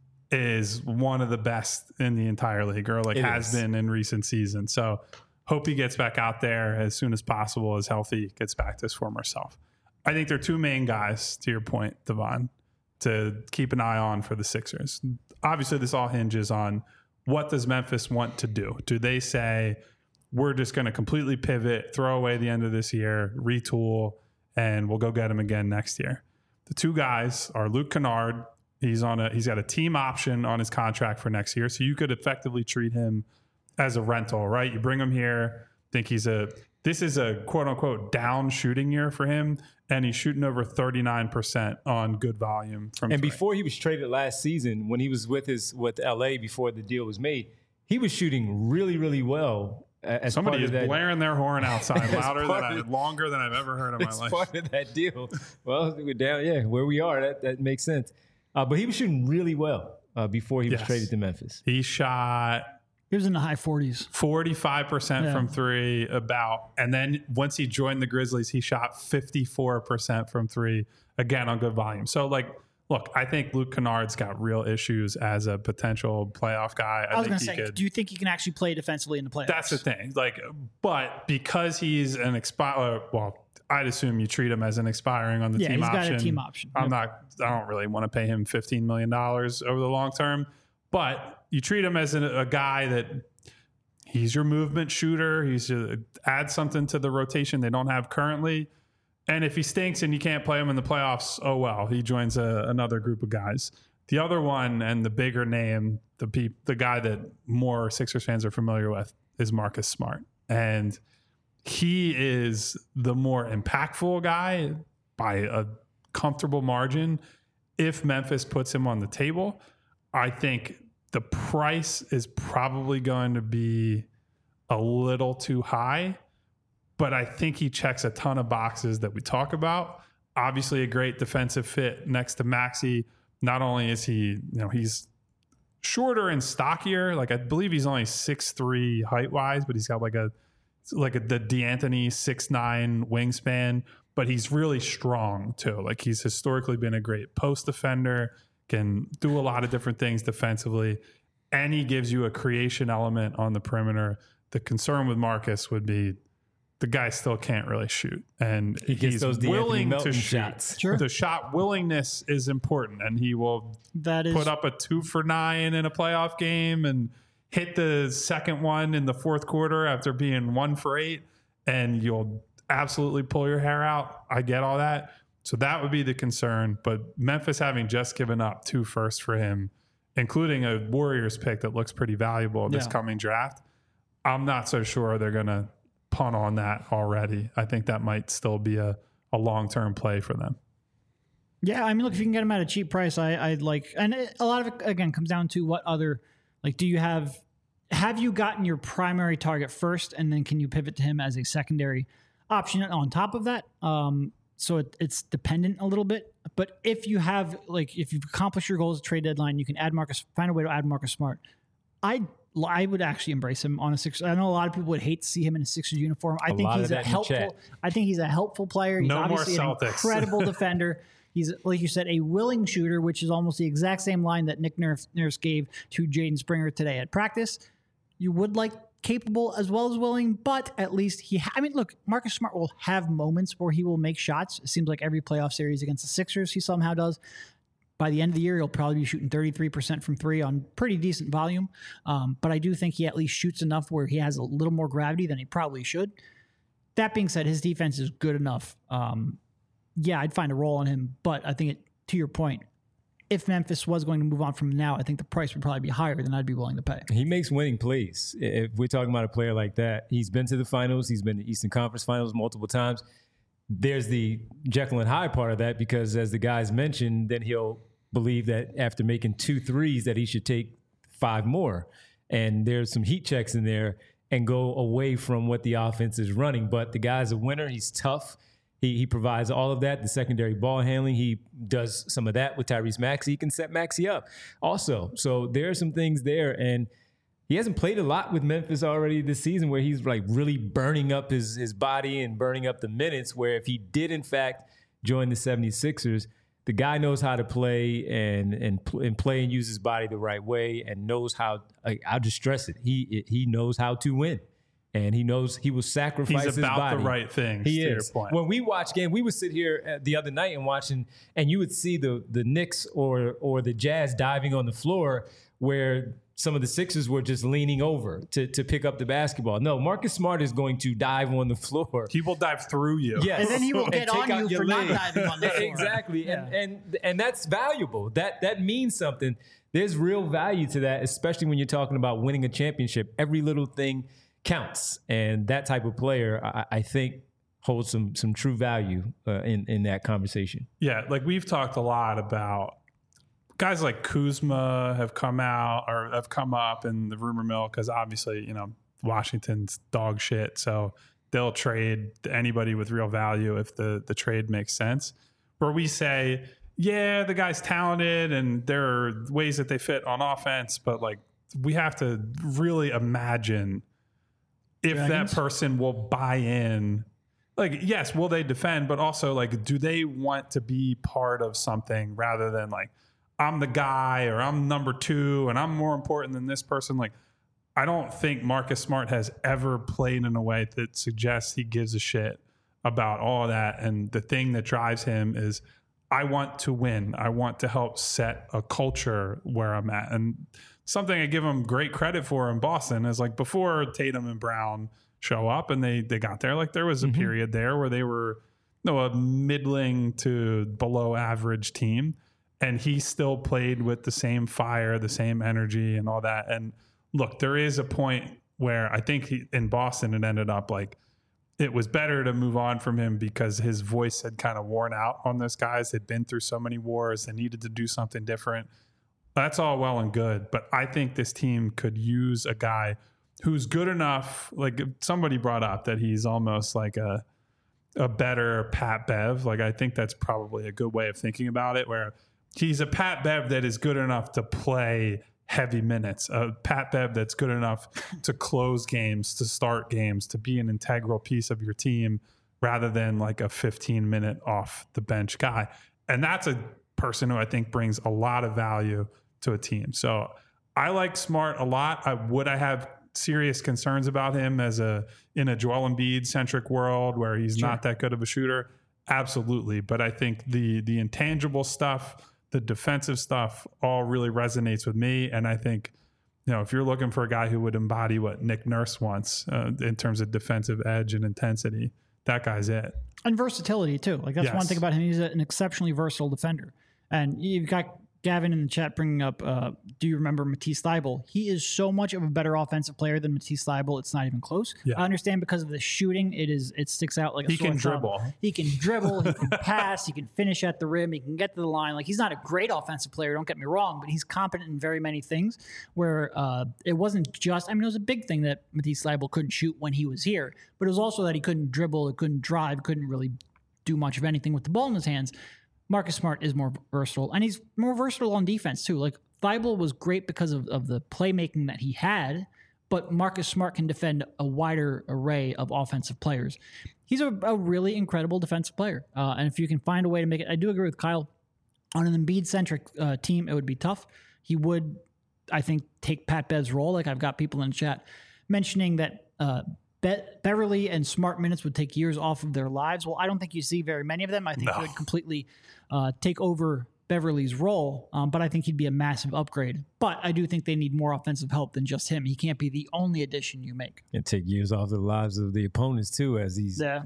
S2: is one of the best in the entire league, or has been in recent seasons. So hope he gets back out there as soon as possible, as healthy, gets back to his former self. I think there are 2 main guys, to your point, Devon, to keep an eye on for the Sixers. Obviously, this all hinges on what does Memphis want to do. Do they say, we're just going to completely pivot, throw away the end of this year, retool, and we'll go get him again next year? The 2 guys are Luke Kennard. He's got a team option on his contract for next year, so you could effectively treat him as a rental, right? You bring him here, think this is a quote unquote down shooting year for him, and he's shooting over 39% on good volume from
S1: And before he was traded last season, when he was with LA before the deal was made, he was shooting really, really well.
S2: Somebody is blaring their horn outside longer than I've ever heard in my life.
S1: Part of that deal. Well, we're down, where we are, that makes sense. But he was shooting really well before he was traded to Memphis.
S2: He was
S3: in the high 40s.
S2: 45% from 3 and then once he joined the Grizzlies, he shot 54% from 3, again on good volume. So look, I think Luke Kennard's got real issues as a potential playoff guy.
S3: I was going to say, do you think he can actually play defensively in the playoffs?
S2: That's the thing. But because he's an I'd assume you treat him as an expiring on the team option. Yeah, he's got a team option. I don't really want to pay him $15 million over the long term, but you treat him as a guy that he's your movement shooter. He's add something to the rotation they don't have currently. And if he stinks and you can't play him in the playoffs, oh well, he joins another group of guys. The other one, and the bigger name, the guy that more Sixers fans are familiar with, is Marcus Smart. And he is the more impactful guy by a comfortable margin. If Memphis puts him on the table, I think the price is probably going to be a little too high, but I think he checks a ton of boxes that we talk about. Obviously a great defensive fit next to Maxey. Not only is he, he's shorter and stockier. I believe he's only 6'3" height wise, but he's got the D'Antoni 6'9" wingspan, but he's really strong too. He's historically been a great post defender, can do a lot of different things defensively, and he gives you a creation element on the perimeter. The concern with Marcus would be the guy still can't really shoot, and he's willing to shoot. Shots.
S3: Sure.
S2: The shot willingness is important, and he will put up a 2 for 9 in a playoff game and hit the second one in the fourth quarter after being 1 for 8, and you'll absolutely pull your hair out. I get all that. So that would be the concern. But Memphis having just given up 2 firsts for him, including a Warriors pick that looks pretty valuable this coming draft, I'm not so sure they're going to punt on that already. I think that might still be a long-term play for them.
S3: Yeah, I mean, look, if you can get him at a cheap price, I'd like, and a lot of it, again, comes down to what other, do you have you gotten your primary target first, and then can you pivot to him as a secondary option on top of that? So it's dependent a little bit. But if you have, if you've accomplished your goals at trade deadline, you can find a way to add Marcus Smart. I would actually embrace him on a Sixers. I know a lot of people would hate to see him in a Sixers uniform. I think he's a helpful player. He's obviously an incredible defender. He's, like you said, a willing shooter, which is almost the exact same line that Nick Nurse gave to Jaden Springer today at practice. You would like capable as well as willing, but at least look, Marcus Smart will have moments where he will make shots. It seems like every playoff series against the Sixers, he somehow does. By the end of the year, he'll probably be shooting 33% from 3 on pretty decent volume. But I do think he at least shoots enough where he has a little more gravity than he probably should. That being said, his defense is good enough. Yeah, I'd find a role on him, but I think to your point, if Memphis was going to move on from now, I think the price would probably be higher than I'd be willing to pay.
S1: He makes winning plays. If we're talking about a player like that, he's been to the finals. He's been to Eastern Conference Finals multiple times. There's the Jekyll and Hyde part of that because, as the guys mentioned, then he'll believe that after making 2 threes that he should take 5 more. And there's some heat checks in there and go away from what the offense is running. But the guy's a winner. He's tough. He provides all of that, the secondary ball handling. He does some of that with Tyrese Maxey. He can set Maxey up also. So there are some things there. And he hasn't played a lot with Memphis already this season where he's like really burning up his body and burning up the minutes, where if he did, in fact, join the 76ers, the guy knows how to play and play and use his body the right way and knows how, I'll just stress it, he knows how to win. And he knows he will sacrifice his body.
S2: He's about the right things.
S1: He is.
S2: Your point.
S1: When we watch game, we would sit here the other night and watching, and you would see the Knicks or the Jazz diving on the floor where some of the Sixers were just leaning over to pick up the basketball. No, Marcus Smart is going to dive on the floor.
S2: He will dive through you.
S1: Yes.
S3: And then he will get on you for not diving on the floor.
S1: Exactly.
S3: Yeah.
S1: And that's valuable. That means something. There's real value to that, especially when you're talking about winning a championship. Every little thing counts. And that type of player, I think, holds some true value in that conversation.
S2: Yeah, like we've talked a lot about guys like Kuzma have come up in the rumor mill because obviously, Washington's dog shit. So they'll trade anybody with real value if the trade makes sense. Where we say, yeah, the guy's talented and there are ways that they fit on offense, but like we have to really imagine if that person will buy in. Like, yes, will they defend, but also like, do they want to be part of something rather than like, I'm the guy or I'm number 2 and I'm more important than this person. Like, I don't think Marcus Smart has ever played in a way that suggests he gives a shit about all of that. And the thing that drives him is, I want to win. I want to help set a culture where I'm at. And something I give him great credit for in Boston is like before Tatum and Brown show up and they got there, like there was a period there where they were a middling to below average team. And he still played with the same fire, the same energy and all that. And look, there is a point where I think in Boston, it ended up like it was better to move on from him because his voice had kind of worn out on those guys. They'd been through so many wars. They needed to do something different. That's all well and good. But I think this team could use a guy who's good enough. Like somebody brought up that he's almost like a better Pat Bev. Like I think that's probably a good way of thinking about it, where he's a Pat Bev that is good enough to play heavy minutes, a Pat Bev that's good enough to close games, to start games, to be an integral piece of your team rather than like a 15-minute off the bench guy. And that's a person who I think brings a lot of value to a team. So I like Smart a lot. I have serious concerns about him in a Joel Embiid centric world where he's not that good of a shooter. Absolutely. But I think the intangible stuff, the defensive stuff all really resonates with me. And I think, if you're looking for a guy who would embody what Nick Nurse wants in terms of defensive edge and intensity, that guy's it.
S3: And versatility too. Like that's one thing about him. He's an exceptionally versatile defender. And you've got Gavin in the chat bringing up, do you remember Matisse Thybulle? He is so much of a better offensive player than Matisse Thybulle. It's not even close. Yeah. I understand because of the shooting, it sticks out like a sore thumb. He can dribble. He can pass. He can finish at the rim. He can get to the line. Like he's not a great offensive player. Don't get me wrong, but he's competent in very many things. Where it wasn't just. It was a big thing that Matisse Thybulle couldn't shoot when he was here, but it was also that he couldn't dribble, couldn't drive, couldn't really do much of anything with the ball in his hands. Marcus Smart is more versatile, and he's more versatile on defense too. Like Thybulle was great because of the playmaking that he had, but Marcus Smart can defend a wider array of offensive players. He's a really incredible defensive player, and if you can find a way to make it, I do agree with Kyle. On an Embiid-centric team, it would be tough. He would, I think, take Pat Bev's role. Like I've got people in the chat mentioning that Beverly and Smart minutes would take years off of their lives. Well, I don't think you see very many of them. I think he would completely take over Beverly's role, but I think he'd be a massive upgrade. But I do think they need more offensive help than just him. He can't be the only addition you make.
S1: And take years off the lives of the opponents too, as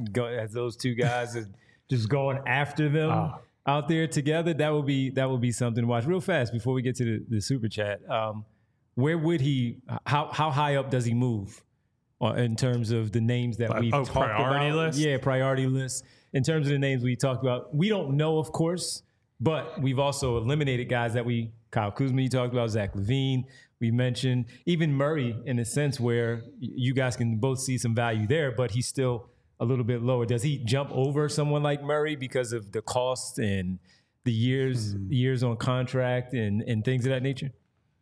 S1: as those two guys are just going after them out there together. That would be something to watch. Real fast before we get to the super chat. Where would he? How high up does he move in terms of the names that we've talked
S2: priority
S1: about?
S2: List?
S1: Yeah, priority list. In terms of the names we talked about, we don't know, of course, but we've also eliminated guys that Kyle Kuzma, you talked about, Zach LaVine, we mentioned, even Murray in a sense where you guys can both see some value there, but he's still a little bit lower. Does he jump over someone like Murray because of the cost and the years on contract and things of that nature?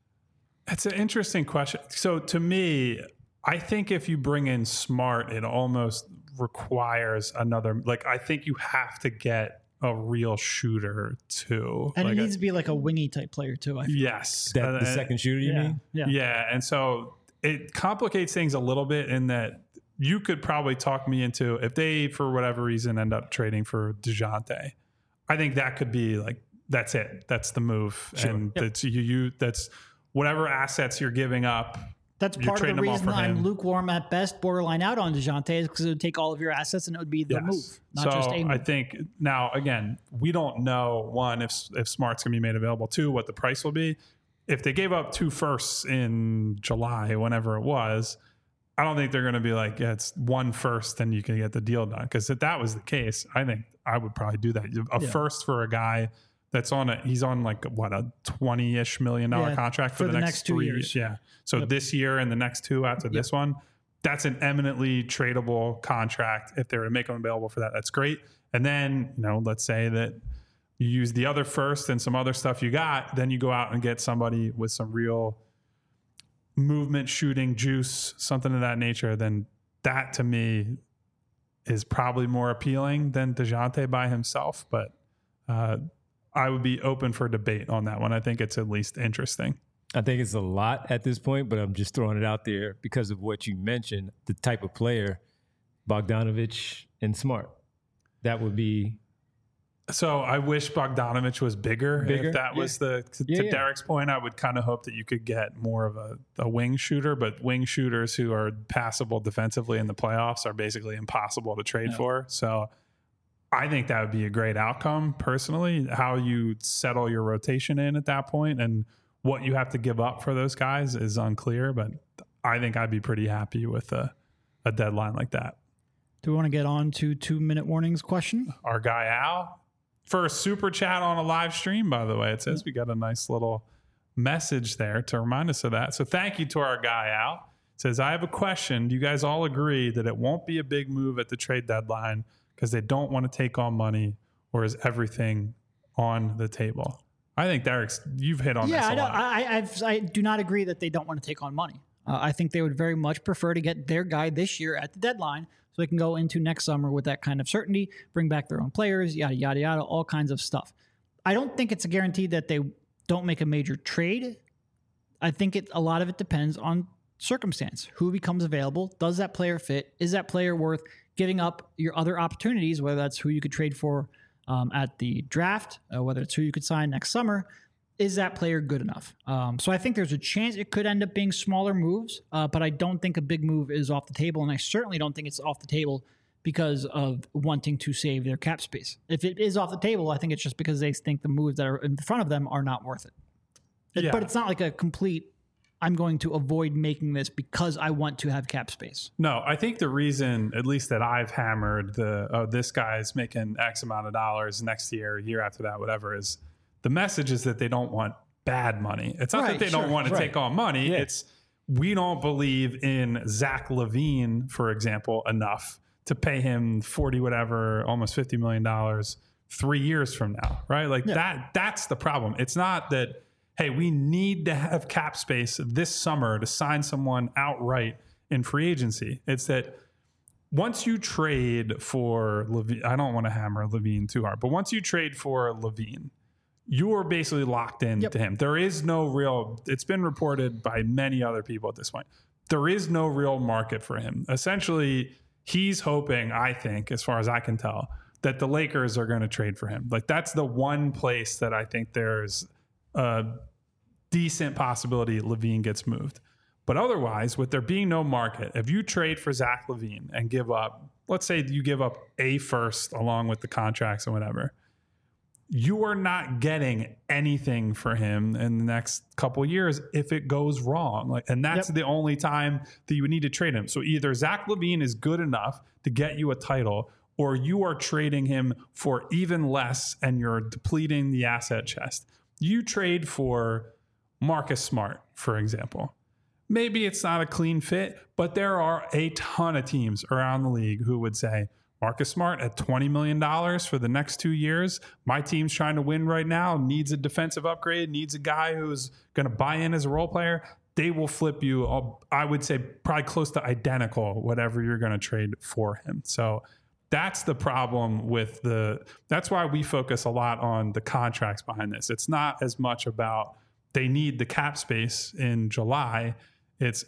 S2: That's an interesting question. So to me, I think if you bring in Smart, it almost requires another, I think you have to get a real shooter too.
S3: And it needs to be like a wingy type player too. I feel.
S2: Yes.
S1: The second shooter, you mean?
S2: Yeah. And so it complicates things a little bit in that you could probably talk me into, if they, for whatever reason, end up trading for DeJounte, I think that could be that's it. That's the move. Sure. And that's whatever assets you're giving up.
S3: That's part of the reason I'm lukewarm at best, borderline out on DeJounte, is because it would take all of your assets and it would be the move, not just a move.
S2: I think now, again, we don't know, one, if Smart's going to be made available, two, what the price will be. If they gave up 2 firsts in July, whenever it was, I don't think they're going to be like, yeah, it's 1 first and you can get the deal done. Because if that was the case, I think I would probably do that. A first for a guy that's he's on a $20-ish million contract for the next 2
S3: years.
S2: Yeah. So this year and the next 2 after this one, that's an eminently tradable contract. If they were to make them available for that, that's great. And then, let's say that you use the other first and some other stuff you got, then you go out and get somebody with some real movement, shooting, juice, something of that nature. Then that to me is probably more appealing than DeJounte by himself. But, I would be open for debate on that one. I think it's at least interesting.
S1: I think it's a lot at this point, but I'm just throwing it out there because of what you mentioned, the type of player, Bogdanovich and Smart. That would be.
S2: So I wish Bogdanovich was bigger. If that was to Derek's point, I would kind of hope that you could get more of a wing shooter, but wing shooters who are passable defensively in the playoffs are basically impossible to trade for. So I think that would be a great outcome personally. How you settle your rotation in at that point and what you have to give up for those guys is unclear, but I think I'd be pretty happy with a deadline like that.
S3: Do we want to get on to 2-minute warnings question?
S2: Our guy Al, for a super chat on a live stream, by the way, it says we got a nice little message there to remind us of that. So thank you to our guy Al. It says, I have a question. Do you guys all agree that it won't be a big move at the trade deadline because they don't want to take on money, or is everything on the table? I think Derek's, you've hit on this a lot.
S3: I do not agree that they don't want to take on money. I think they would very much prefer to get their guy this year at the deadline so they can go into next summer with that kind of certainty, bring back their own players, yada, yada, yada, all kinds of stuff. I don't think it's a guarantee that they don't make a major trade. I think a lot of it depends on circumstance. Who becomes available? Does that player fit? Is that player worth giving up your other opportunities, whether that's who you could trade for at the draft, whether it's who you could sign next summer? Is that player good enough? So I think there's a chance it could end up being smaller moves, but I don't think a big move is off the table, and I certainly don't think it's off the table because of wanting to save their cap space. If it is off the table, I think it's just because they think the moves that are in front of them are not worth it. But it's not like a complete, I'm going to avoid making this because I want to have cap space.
S2: No, I think the reason, at least that I've hammered this guy's making X amount of dollars next year, year after that, whatever, is the message is that they don't want bad money. It's not that they don't want to take on money. Yeah. It's we don't believe in Zach LaVine, for example, enough to pay him 40 whatever, almost $50 million 3 years from now, right? That's the problem. It's not that, hey, we need to have cap space this summer to sign someone outright in free agency. It's that once you trade for LaVine, I don't want to hammer LaVine too hard, but once you trade for LaVine, you are basically locked into him. There is no real, it's been reported by many other people at this point, there is no real market for him. Essentially, he's hoping, I think, as far as I can tell, that the Lakers are going to trade for him. Like that's the one place that I think there's a decent possibility LaVine gets moved. But otherwise, with there being no market, if you trade for Zach LaVine and give up, let's say you give up a first along with the contracts and whatever, you are not getting anything for him in the next couple of years if it goes wrong. Like, and that's the only time that you would need to trade him. So either Zach LaVine is good enough to get you a title, or you are trading him for even less and you're depleting the asset chest. You trade for Marcus Smart, for example. Maybe it's not a clean fit, but there are a ton of teams around the league who would say, Marcus Smart at $20 million for the next 2 years. My team's trying to win right now, needs a defensive upgrade, needs a guy who's going to buy in as a role player. They will flip you, I would say, probably close to identical, whatever you're going to trade for him. So that's the problem with that's why we focus a lot on the contracts behind this. It's not as much about they need the cap space in July. It's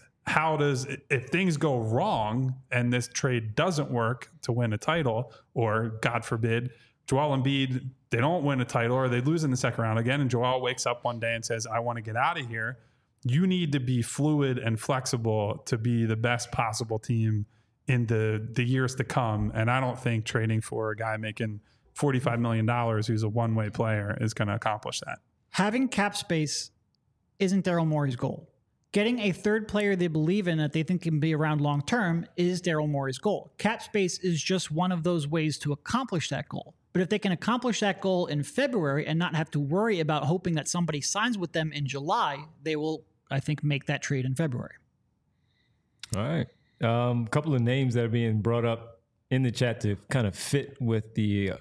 S2: if things go wrong and this trade doesn't work to win a title, or God forbid, Joel Embiid, they don't win a title or they lose in the second round again, and Joel wakes up one day and says, I want to get out of here. You need to be fluid and flexible to be the best possible team in the years to come. And I don't think trading for a guy making $45 million who's a one-way player is going to accomplish that.
S3: Having cap space isn't Daryl Morey's goal. Getting a third player they believe in that they think can be around long term is Daryl Morey's goal. Cap space is just one of those ways to accomplish that goal. But if they can accomplish that goal in February and not have to worry about hoping that somebody signs with them in July, they will, I think, make that trade in February.
S1: All right. A couple of names that are being brought up in the chat to kind of fit with the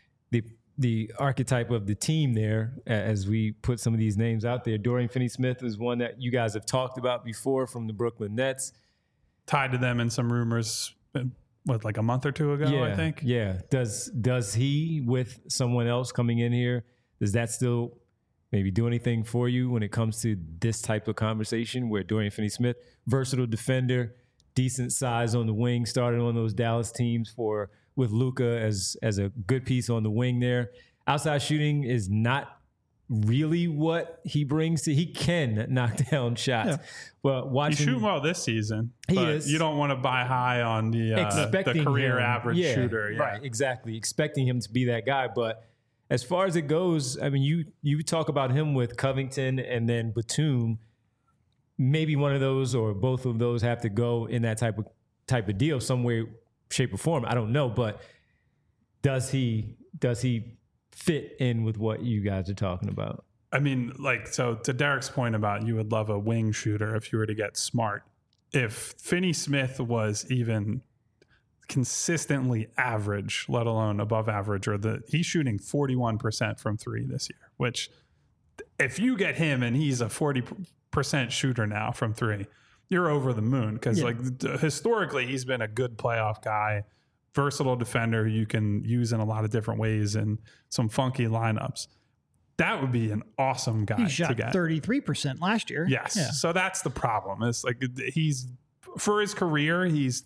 S1: archetype of the team there as we put some of these names out there. Dorian Finney-Smith is one that you guys have talked about before from the Brooklyn Nets.
S2: Tied to them in some rumors, like a month or two ago, I think?
S1: Yeah. Does he, with someone else coming in here, does that still maybe do anything for you when it comes to this type of conversation where Dorian Finney-Smith, versatile defender, decent size on the wing, started on those Dallas teams with Luka as a good piece on the wing there. Outside shooting is not really what he brings to. He can knock down shots, but watching,
S2: he's shooting well this season.
S1: He is.
S2: You don't want to buy high on the career average shooter. Yeah.
S1: Right, exactly. Expecting him to be that guy, but as far as it goes, I mean, you talk about him with Covington and then Batum. Maybe one of those or both of those have to go in that type of deal, some way, shape, or form. I don't know, but does he fit in with what you guys are talking about?
S2: I mean, so to Derek's point about you would love a wing shooter if you were to get Smart. If Finney-Smith was even consistently average, let alone above average, he's shooting 41% from three this year, which if you get him and he's a 40% shooter now from three, you're over the moon, because historically he's been a good playoff guy, versatile defender who you can use in a lot of different ways and some funky lineups. That would be an awesome guy
S3: to get. He shot 33% last year.
S2: Yes. Yeah. So that's the problem. It's like for his career, he's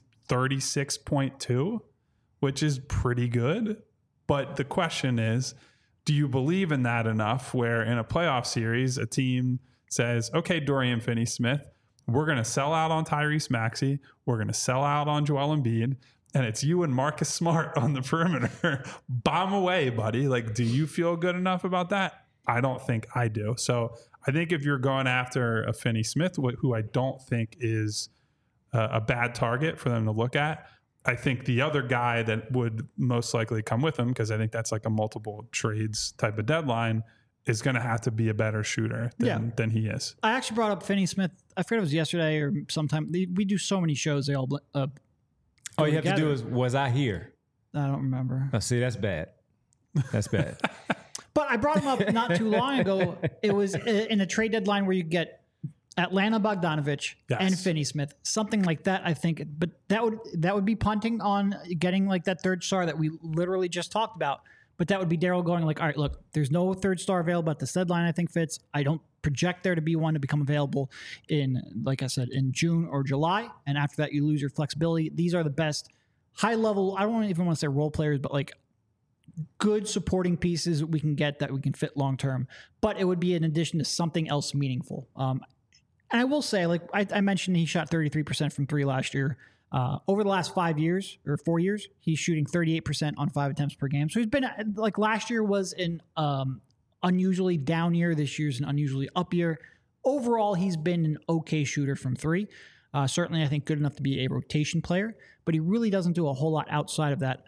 S2: 36.2, which is pretty good. But the question is, do you believe in that enough where in a playoff series, a team says, okay, Dorian Finney-Smith, we're going to sell out on Tyrese Maxey. We're going to sell out on Joel Embiid. And it's you and Marcus Smart on the perimeter. Bomb away, buddy. Like, do you feel good enough about that? I don't think I do. So I think if you're going after a Finney-Smith, who I don't think is a bad target for them to look at, I think the other guy that would most likely come with him, because I think that's like a multiple trades type of deadline, is going to have to be a better shooter than he is.
S3: I actually brought up Finney-Smith. I forget if it was yesterday or sometime. We do so many shows. They all
S1: all you have to do is, was I here?
S3: I don't remember.
S1: Oh, see, that's bad. That's bad.
S3: But I brought him up not too long ago. It was in a trade deadline where you get Atlanta Bogdanovich and Finney-Smith, something like that, I think. But that would be punting on getting like that third star that we literally just talked about. But that would be Daryl going like, all right, look, there's no third star available at this deadline. I think fits. I don't project there to be one to become available in, like I said, in June or July. And after that, you lose your flexibility. These are the best high level. I don't even want to say role players, but like good supporting pieces we can get that we can fit long term, but it would be in addition to something else meaningful. And I will say, like I mentioned, he shot 33% from three last year. Over the last 5 years or 4 years, he's shooting 38% on 5 attempts per game. So he's been like last year was an unusually down year. This year's an unusually up year. Overall, he's been an okay shooter from three. Certainly, I think good enough to be a rotation player, but he really doesn't do a whole lot outside of that.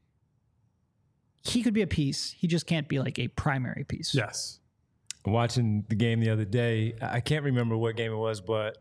S3: He could be a piece. He just can't be like a primary piece.
S2: Yes.
S1: Watching the game the other day, I can't remember what game it was, but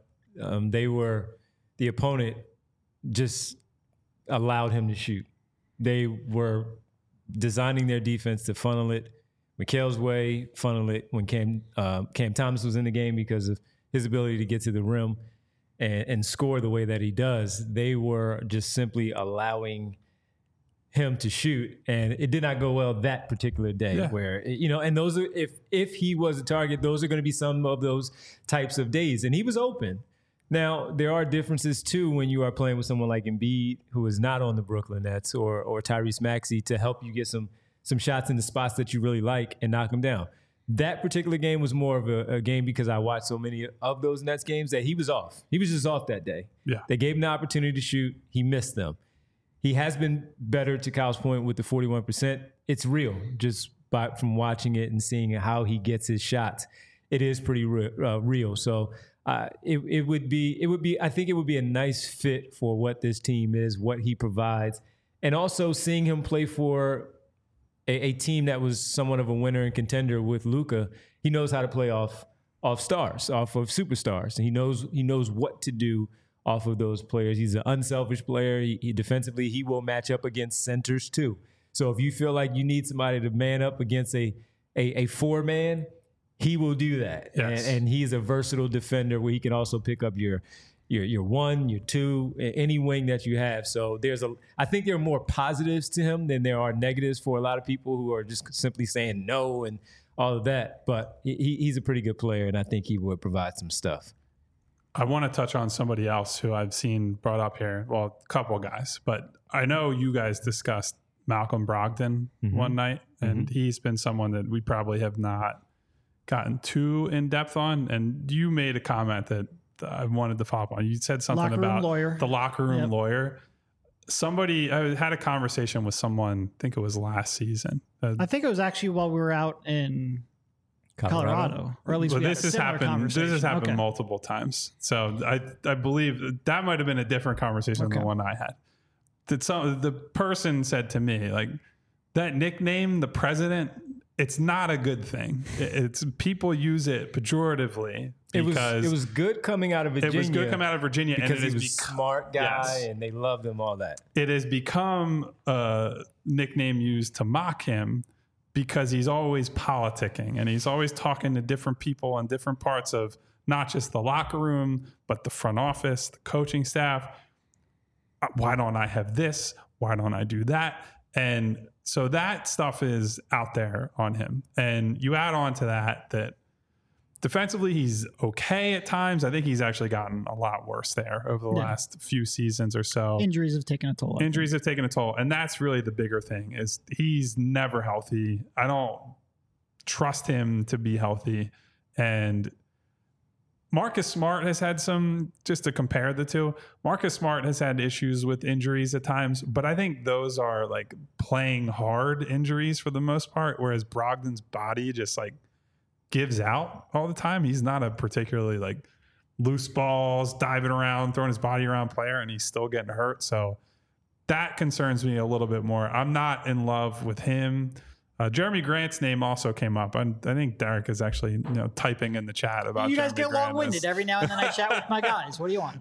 S1: the opponent just allowed him to shoot. They were designing their defense to funnel it Mikal's way, funnel it when Cam Thomas was in the game because of his ability to get to the rim and score the way that he does. They were just simply allowing him to shoot, and it did not go well that particular day. Where, and those are, if he was a target, those are going to be some of those types of days, and he was open. Now, there are differences, too, when you are playing with someone like Embiid, who is not on the Brooklyn Nets, or Tyrese Maxey, to help you get some shots in the spots that you really like and knock them down. That particular game was more of a game because I watched so many of those Nets games that he was off. He was just off that day.
S2: Yeah.
S1: They gave him the opportunity to shoot. He missed them. He has been better, to Kyle's point, with the 41%. It's real, just from watching it and seeing how he gets his shots. It is pretty real. So, it would be. I think it would be a nice fit for what this team is, what he provides, and also seeing him play for a team that was somewhat of a winner and contender with Luka. He knows how to play off stars, off of superstars, and he knows what to do off of those players. He's an unselfish player. He defensively, he will match up against centers too. So if you feel like you need somebody to man up against a four-man, he will do that.
S2: Yes.
S1: And he's a versatile defender where he can also pick up your one, your two, any wing that you have. So I think there are more positives to him than there are negatives for a lot of people who are just simply saying no and all of that. But he's a pretty good player, and I think he would provide some stuff.
S2: I want to touch on somebody else who I've seen brought up here. Well, a couple of guys, but I know you guys discussed Malcolm Brogdon one night, and he's been someone that we probably have not gotten too in depth on. And you made a comment that I wanted to follow up on. You said something about the locker room lawyer. I had a conversation with someone, I think it was last season.
S3: I think it was actually while we were out in Colorado, or at least
S2: this has happened multiple times. So I believe that might have been a different conversation than the one I had. The person said to me, like, that nickname, the president, it's not a good thing. It's people use it pejoratively. Because
S1: it was good coming out of Virginia.
S2: It was good coming out of Virginia
S1: because he was a smart guy, and they loved him, all that.
S2: It has become a nickname used to mock him because he's always politicking, and he's always talking to different people on different parts of not just the locker room, but the front office, the coaching staff. Why don't I have this? Why don't I do that? And so that stuff is out there on him. And you add on to that defensively, he's okay at times. I think he's actually gotten a lot worse there over the last few seasons or so.
S3: Injuries have taken a toll.
S2: And that's really the bigger thing, is he's never healthy. I don't trust him to be healthy. And Marcus Smart has had just to compare the two, Marcus Smart has had issues with injuries at times, but I think those are like playing hard injuries for the most part, whereas Brogdon's body just like gives out all the time. He's not a particularly like loose balls, diving around, throwing his body around player, and he's still getting hurt. So that concerns me a little bit more. I'm not in love with him. Jeremy Grant's name also came up. I think Derek is actually typing in the chat about
S3: you guys
S2: Jeremy
S3: get long-winded every now and then. I chat with my guys. What do you want?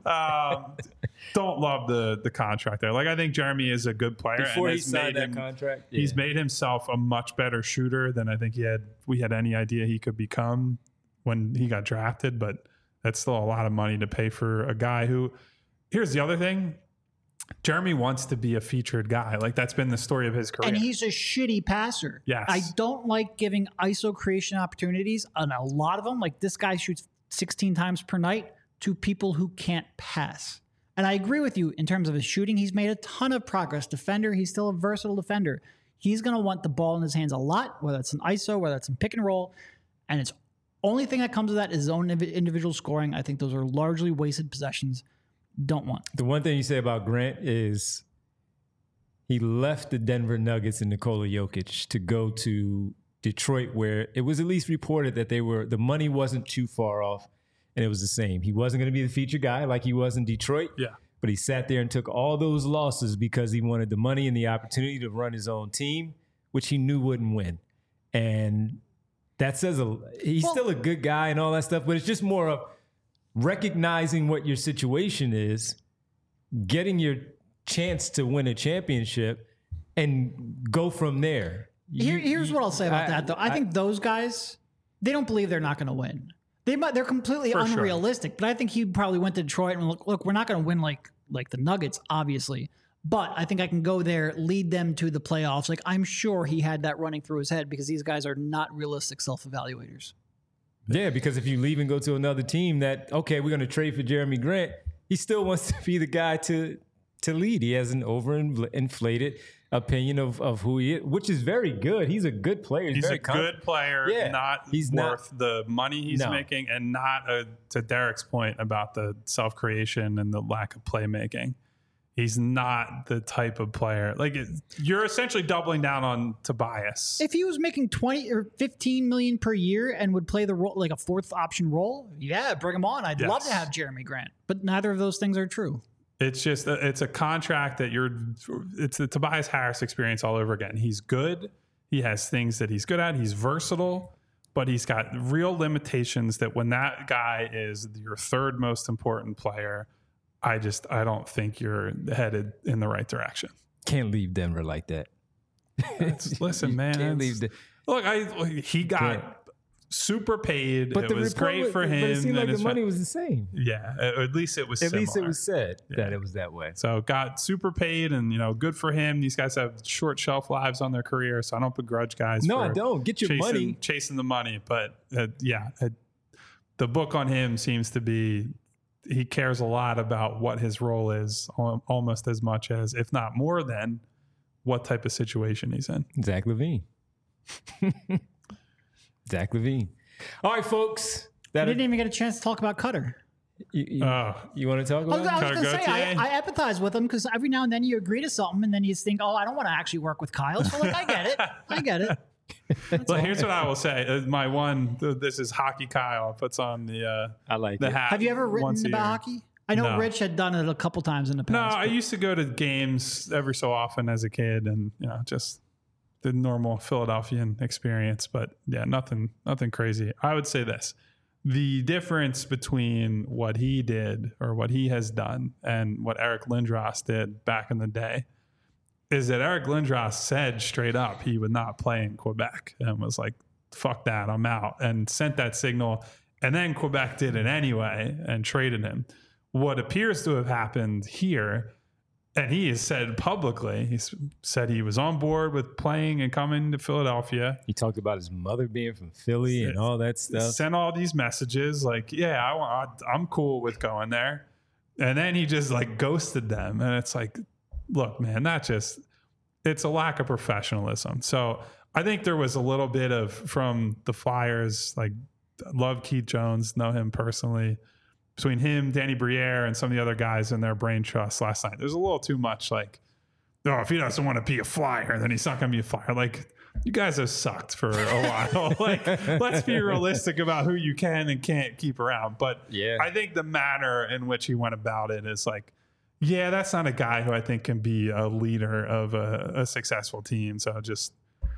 S2: Don't love the contract there. Like, I think Jeremy is a good player.
S1: Before he signed that contract,
S2: he's made himself a much better shooter than I think we had any idea he could become when he got drafted. But that's still a lot of money to pay for a guy who. Here's the other thing. Jeremy wants to be a featured guy. Like, that's been the story of his career.
S3: And he's a shitty passer.
S2: Yes.
S3: I don't like giving ISO creation opportunities on a lot of them. Like, this guy shoots 16 times per night to people who can't pass. And I agree with you in terms of his shooting. He's made a ton of progress. Defender, he's still a versatile defender. He's going to want the ball in his hands a lot, whether it's an ISO, whether it's in pick and roll. And it's only thing that comes with that is his own individual scoring. I think those are largely wasted possessions. Don't want.
S1: The one thing you say about Grant is he left the Denver Nuggets and Nikola Jokic to go to Detroit, where it was at least reported that the money wasn't too far off, and it was the same. He wasn't going to be the feature guy like he was in Detroit.
S2: Yeah.
S1: But he sat there and took all those losses because he wanted the money and the opportunity to run his own team, which he knew wouldn't win. And that says he's still a good guy and all that stuff, but it's just more of recognizing what your situation is, getting your chance to win a championship, and go from there.
S3: Here's what I'll say about that, though. I think those guys, they don't believe they're not going to win. They're completely unrealistic. Sure. But I think he probably went to Detroit and look, we're not going to win like the Nuggets, obviously. But I think I can go there, lead them to the playoffs. Like, I'm sure he had that running through his head because these guys are not realistic self-evaluators.
S1: Yeah, because if you leave and go to another team that, okay, we're going to trade for Jeremy Grant, he still wants to be the guy to lead. He has an overinflated opinion of who he is, which is very good. He's a good player.
S2: He's a good player, he's worth the money he's making, and not, to Derek's point about the self-creation and the lack of playmaking. He's not the type of player. Like, you're essentially doubling down on Tobias.
S3: If he was making 20 or 15 million per year and would play the role like a fourth option role, yeah, bring him on. I'd love to have Jeremy Grant, but neither of those things are true.
S2: It's just it's a contract that it's the Tobias Harris experience all over again. He's good. He has things that he's good at. He's versatile, but he's got real limitations that when that guy is your third most important player, I don't think you're headed in the right direction.
S1: Can't leave Denver like that.
S2: Listen, man. He got super paid. But it was great for him.
S1: But it seemed like the money was the same.
S2: Yeah, at least it was similar.
S1: At least it was said that it was that way.
S2: So got super paid, and good for him. These guys have short shelf lives on their career, so I don't begrudge guys.
S1: No, I don't. Get your money.
S2: Chasing the money. But the book on him seems to be he cares a lot about what his role is, almost as much as, if not more than, what type of situation he's in.
S1: Zach LaVine. Zach LaVine. All right, folks.
S3: I didn't even get a chance to talk about Cutter.
S1: You want to talk about
S3: I was going to say, I empathize with him because every now and then you agree to something and then you think, I don't want to actually work with Kyle. So, I get it. I get it.
S2: Well, here's what I will say. My one, this is Hockey Kyle, puts on the
S1: I like
S2: the
S1: it.
S2: hat.
S3: Have you ever written about hockey? I know Rich had done it a couple times in the past.
S2: No, I used to go to games every so often as a kid, and just the normal Philadelphian experience. But yeah, nothing crazy. I would say this: the difference between what he did or what he has done and what Eric Lindros did back in the day is that Eric Lindros said straight up he would not play in Quebec and was like, fuck that, I'm out, and sent that signal. And then Quebec did it anyway and traded him. What appears to have happened here, and he has said publicly, he said he was on board with playing and coming to Philadelphia.
S1: He talked about his mother being from Philly and all that stuff.
S2: Sent all these messages like, yeah, I'm cool with going there. And then he just like ghosted them. And it's like, look, man, it's a lack of professionalism. So I think there was a little bit of, from the Flyers, like, love Keith Jones, know him personally, between him, Danny Briere, and some of the other guys in their brain trust last night. There's a little too much like, if he doesn't want to be a Flyer, then he's not going to be a Flyer. Like, you guys have sucked for a while. Like, let's be realistic about who you can and can't keep around. But I think the manner in which he went about it is like, that's not a guy who I think can be a leader of a successful team. So just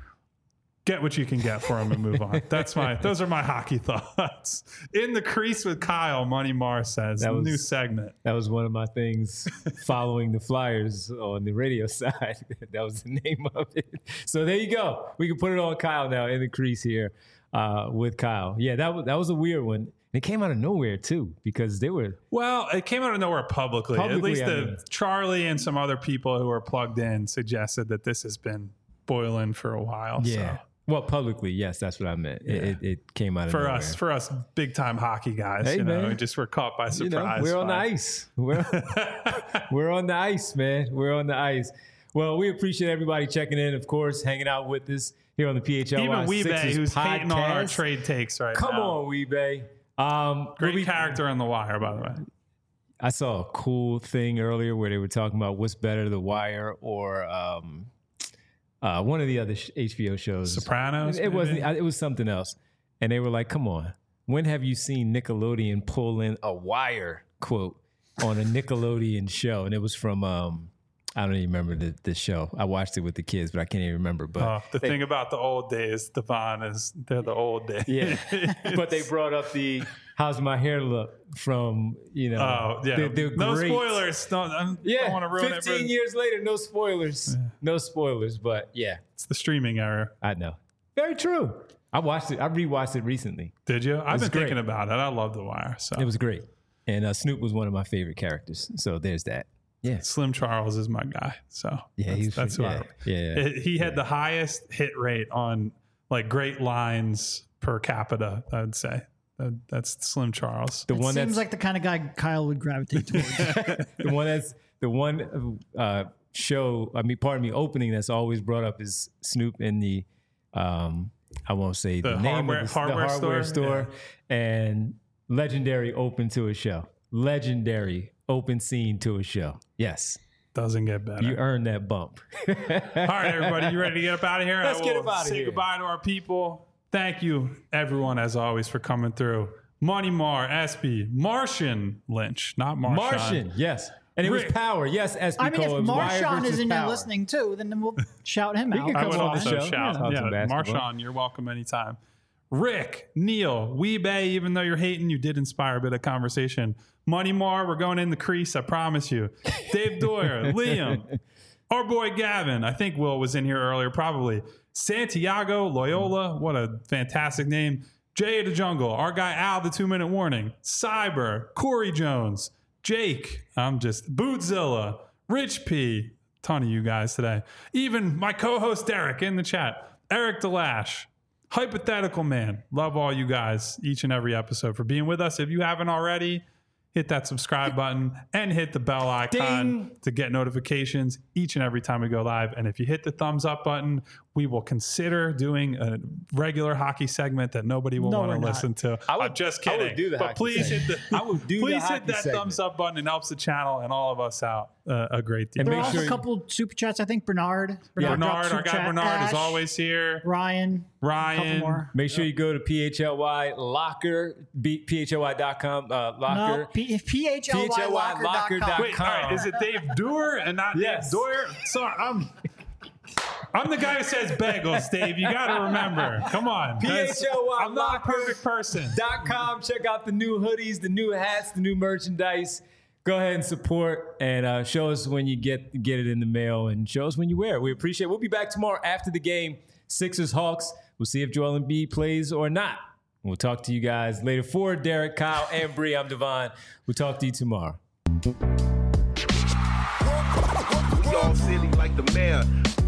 S2: get what you can get for him and move on. Those are my hockey thoughts. In the Crease with Kyle, Money Mars says, new segment.
S1: That was one of my things following the Flyers on the radio side. That was the name of it. So there you go. We can put it on Kyle now, In the Crease here with Kyle. Yeah, that was a weird one. It came out of nowhere too, because they were. Well,
S2: it came out of nowhere publicly. At least Charlie and some other people who are plugged in suggested that this has been boiling for a while.
S1: Yeah. So. Well, publicly, yes, that's what I meant. Yeah. It came out of nowhere.
S2: For us big time hockey guys, we just were caught by surprise.
S1: We're on the ice. We're on the ice, man. We're on the ice. Well, we appreciate everybody checking in, of course, hanging out with us here on the PHLY
S2: Even Weebay, who's hating on our
S1: podcast.
S2: trade takes right
S1: Come
S2: now.
S1: on, Weebay.
S2: Great character on The Wire, by the way.
S1: I saw a cool thing earlier where they were talking about what's better, The Wire or one of the other HBO shows.
S2: Sopranos?
S1: It wasn't. It was something else. And they were like, come on. When have you seen Nickelodeon pull in a Wire quote on a Nickelodeon show? And it was from, I don't even remember the show. I watched it with the kids, but I can't even remember. But
S2: The thing about the old days, Devon, is they're the old days.
S1: yeah. But they brought up the how's my hair look from,
S2: Oh, yeah. No
S1: great-
S2: spoilers. I don't want to ruin
S1: 15
S2: it.
S1: years later, no spoilers. No spoilers, but yeah,
S2: It's the streaming era.
S1: I know. Very true. I watched it. I rewatched it recently.
S2: Did you? I've been
S1: great.
S2: thinking about it. I love The Wire. So
S1: It was great. And Snoop was one of my favorite characters. So there's that. Yeah.
S2: Slim Charles is my guy. So
S1: Yeah,
S2: that's who I. He had the highest hit rate on like great lines per capita, I would say. That's Slim Charles.
S1: The
S3: It
S1: one
S3: seems
S1: that's
S3: like the kind of guy Kyle would gravitate towards.
S1: opening that's always brought up is Snoop in the I won't say the name of the hardware store and legendary open to a show. Legendary open scene to a show. Yes.
S2: Doesn't get better.
S1: You earned that bump.
S2: All right, everybody, you ready to get up out of here?
S1: Let's get up out of
S2: say
S1: here.
S2: goodbye to our people. Thank you, everyone, as always, for coming through. Money Mar, SB, Martian Lynch, not Marshawn.
S1: Martian, yes. And it was
S2: Rick.
S1: Power. Yes, SB
S3: I mean, if
S1: Cole. It was Wire
S3: Marshawn
S1: versus
S3: is in there
S1: Power.
S3: listening too, then we'll shout him out.
S1: can
S2: I
S1: come
S2: would
S1: on the
S2: also
S1: show.
S2: shout.
S1: Talk
S2: Yeah,
S1: some basketball.
S2: Marshawn, you're welcome anytime. Rick, Neil, Weebay, even though you're hating, you did inspire a bit of conversation. Money Mar, we're going in the crease, I promise you. Dave Doyer, Liam, our boy Gavin, I think Will was in here earlier, probably. Santiago Loyola, what a fantastic name. Jay of the Jungle, our guy Al, the 2-minute warning. Cyber, Corey Jones, Jake, Bootzilla, Rich P, ton of you guys today. Even my co-host Derek in the chat, Eric Delash, Hypothetical Man. Love all you guys each and every episode for being with us. If you haven't already, hit that subscribe button and hit the bell icon to get notifications each and every time we go live. And if you hit the thumbs up button, we will consider doing a regular hockey segment that nobody will want to listen to. I'm just kidding.
S1: I would do the
S2: but
S1: hockey
S2: please hit
S1: segment.
S2: the
S1: I would do
S2: please
S1: the
S2: hit
S1: hockey
S2: that
S1: segment.
S2: thumbs up button. It helps the channel and all of us out a great deal.
S1: And
S3: There
S1: make
S3: are also
S1: sure
S3: a couple super chats. I think Bernard.
S2: Bernard,
S3: dropped
S2: our
S3: super
S2: guy
S3: chat.
S2: Bernard
S3: Ash,
S2: is always here.
S3: Ryan. A couple
S2: Ryan.
S3: more.
S1: Make sure you go to PHLY Locker, PHLY.com, Locker.
S3: No, PHLYlocker.com.
S2: Wait, all right, is it Dave Doer and not
S1: Yes.
S2: Dave Doyer? Sorry, I'm the guy who says bagels, Dave. You got to remember. Come on.
S1: PHLY
S2: I'm not a perfect person.
S1: .com. Check out the new hoodies, the new hats, the new merchandise. Go ahead and support and show us when you get it in the mail and show us when you wear it. We appreciate it. We'll be back tomorrow after the game. Sixers Hawks. We'll see if Joel Embiid plays or not. We'll talk to you guys later. For Derek, Kyle, and Bree, I'm Devon. We'll talk to you tomorrow.
S4: We all silly like the mayor.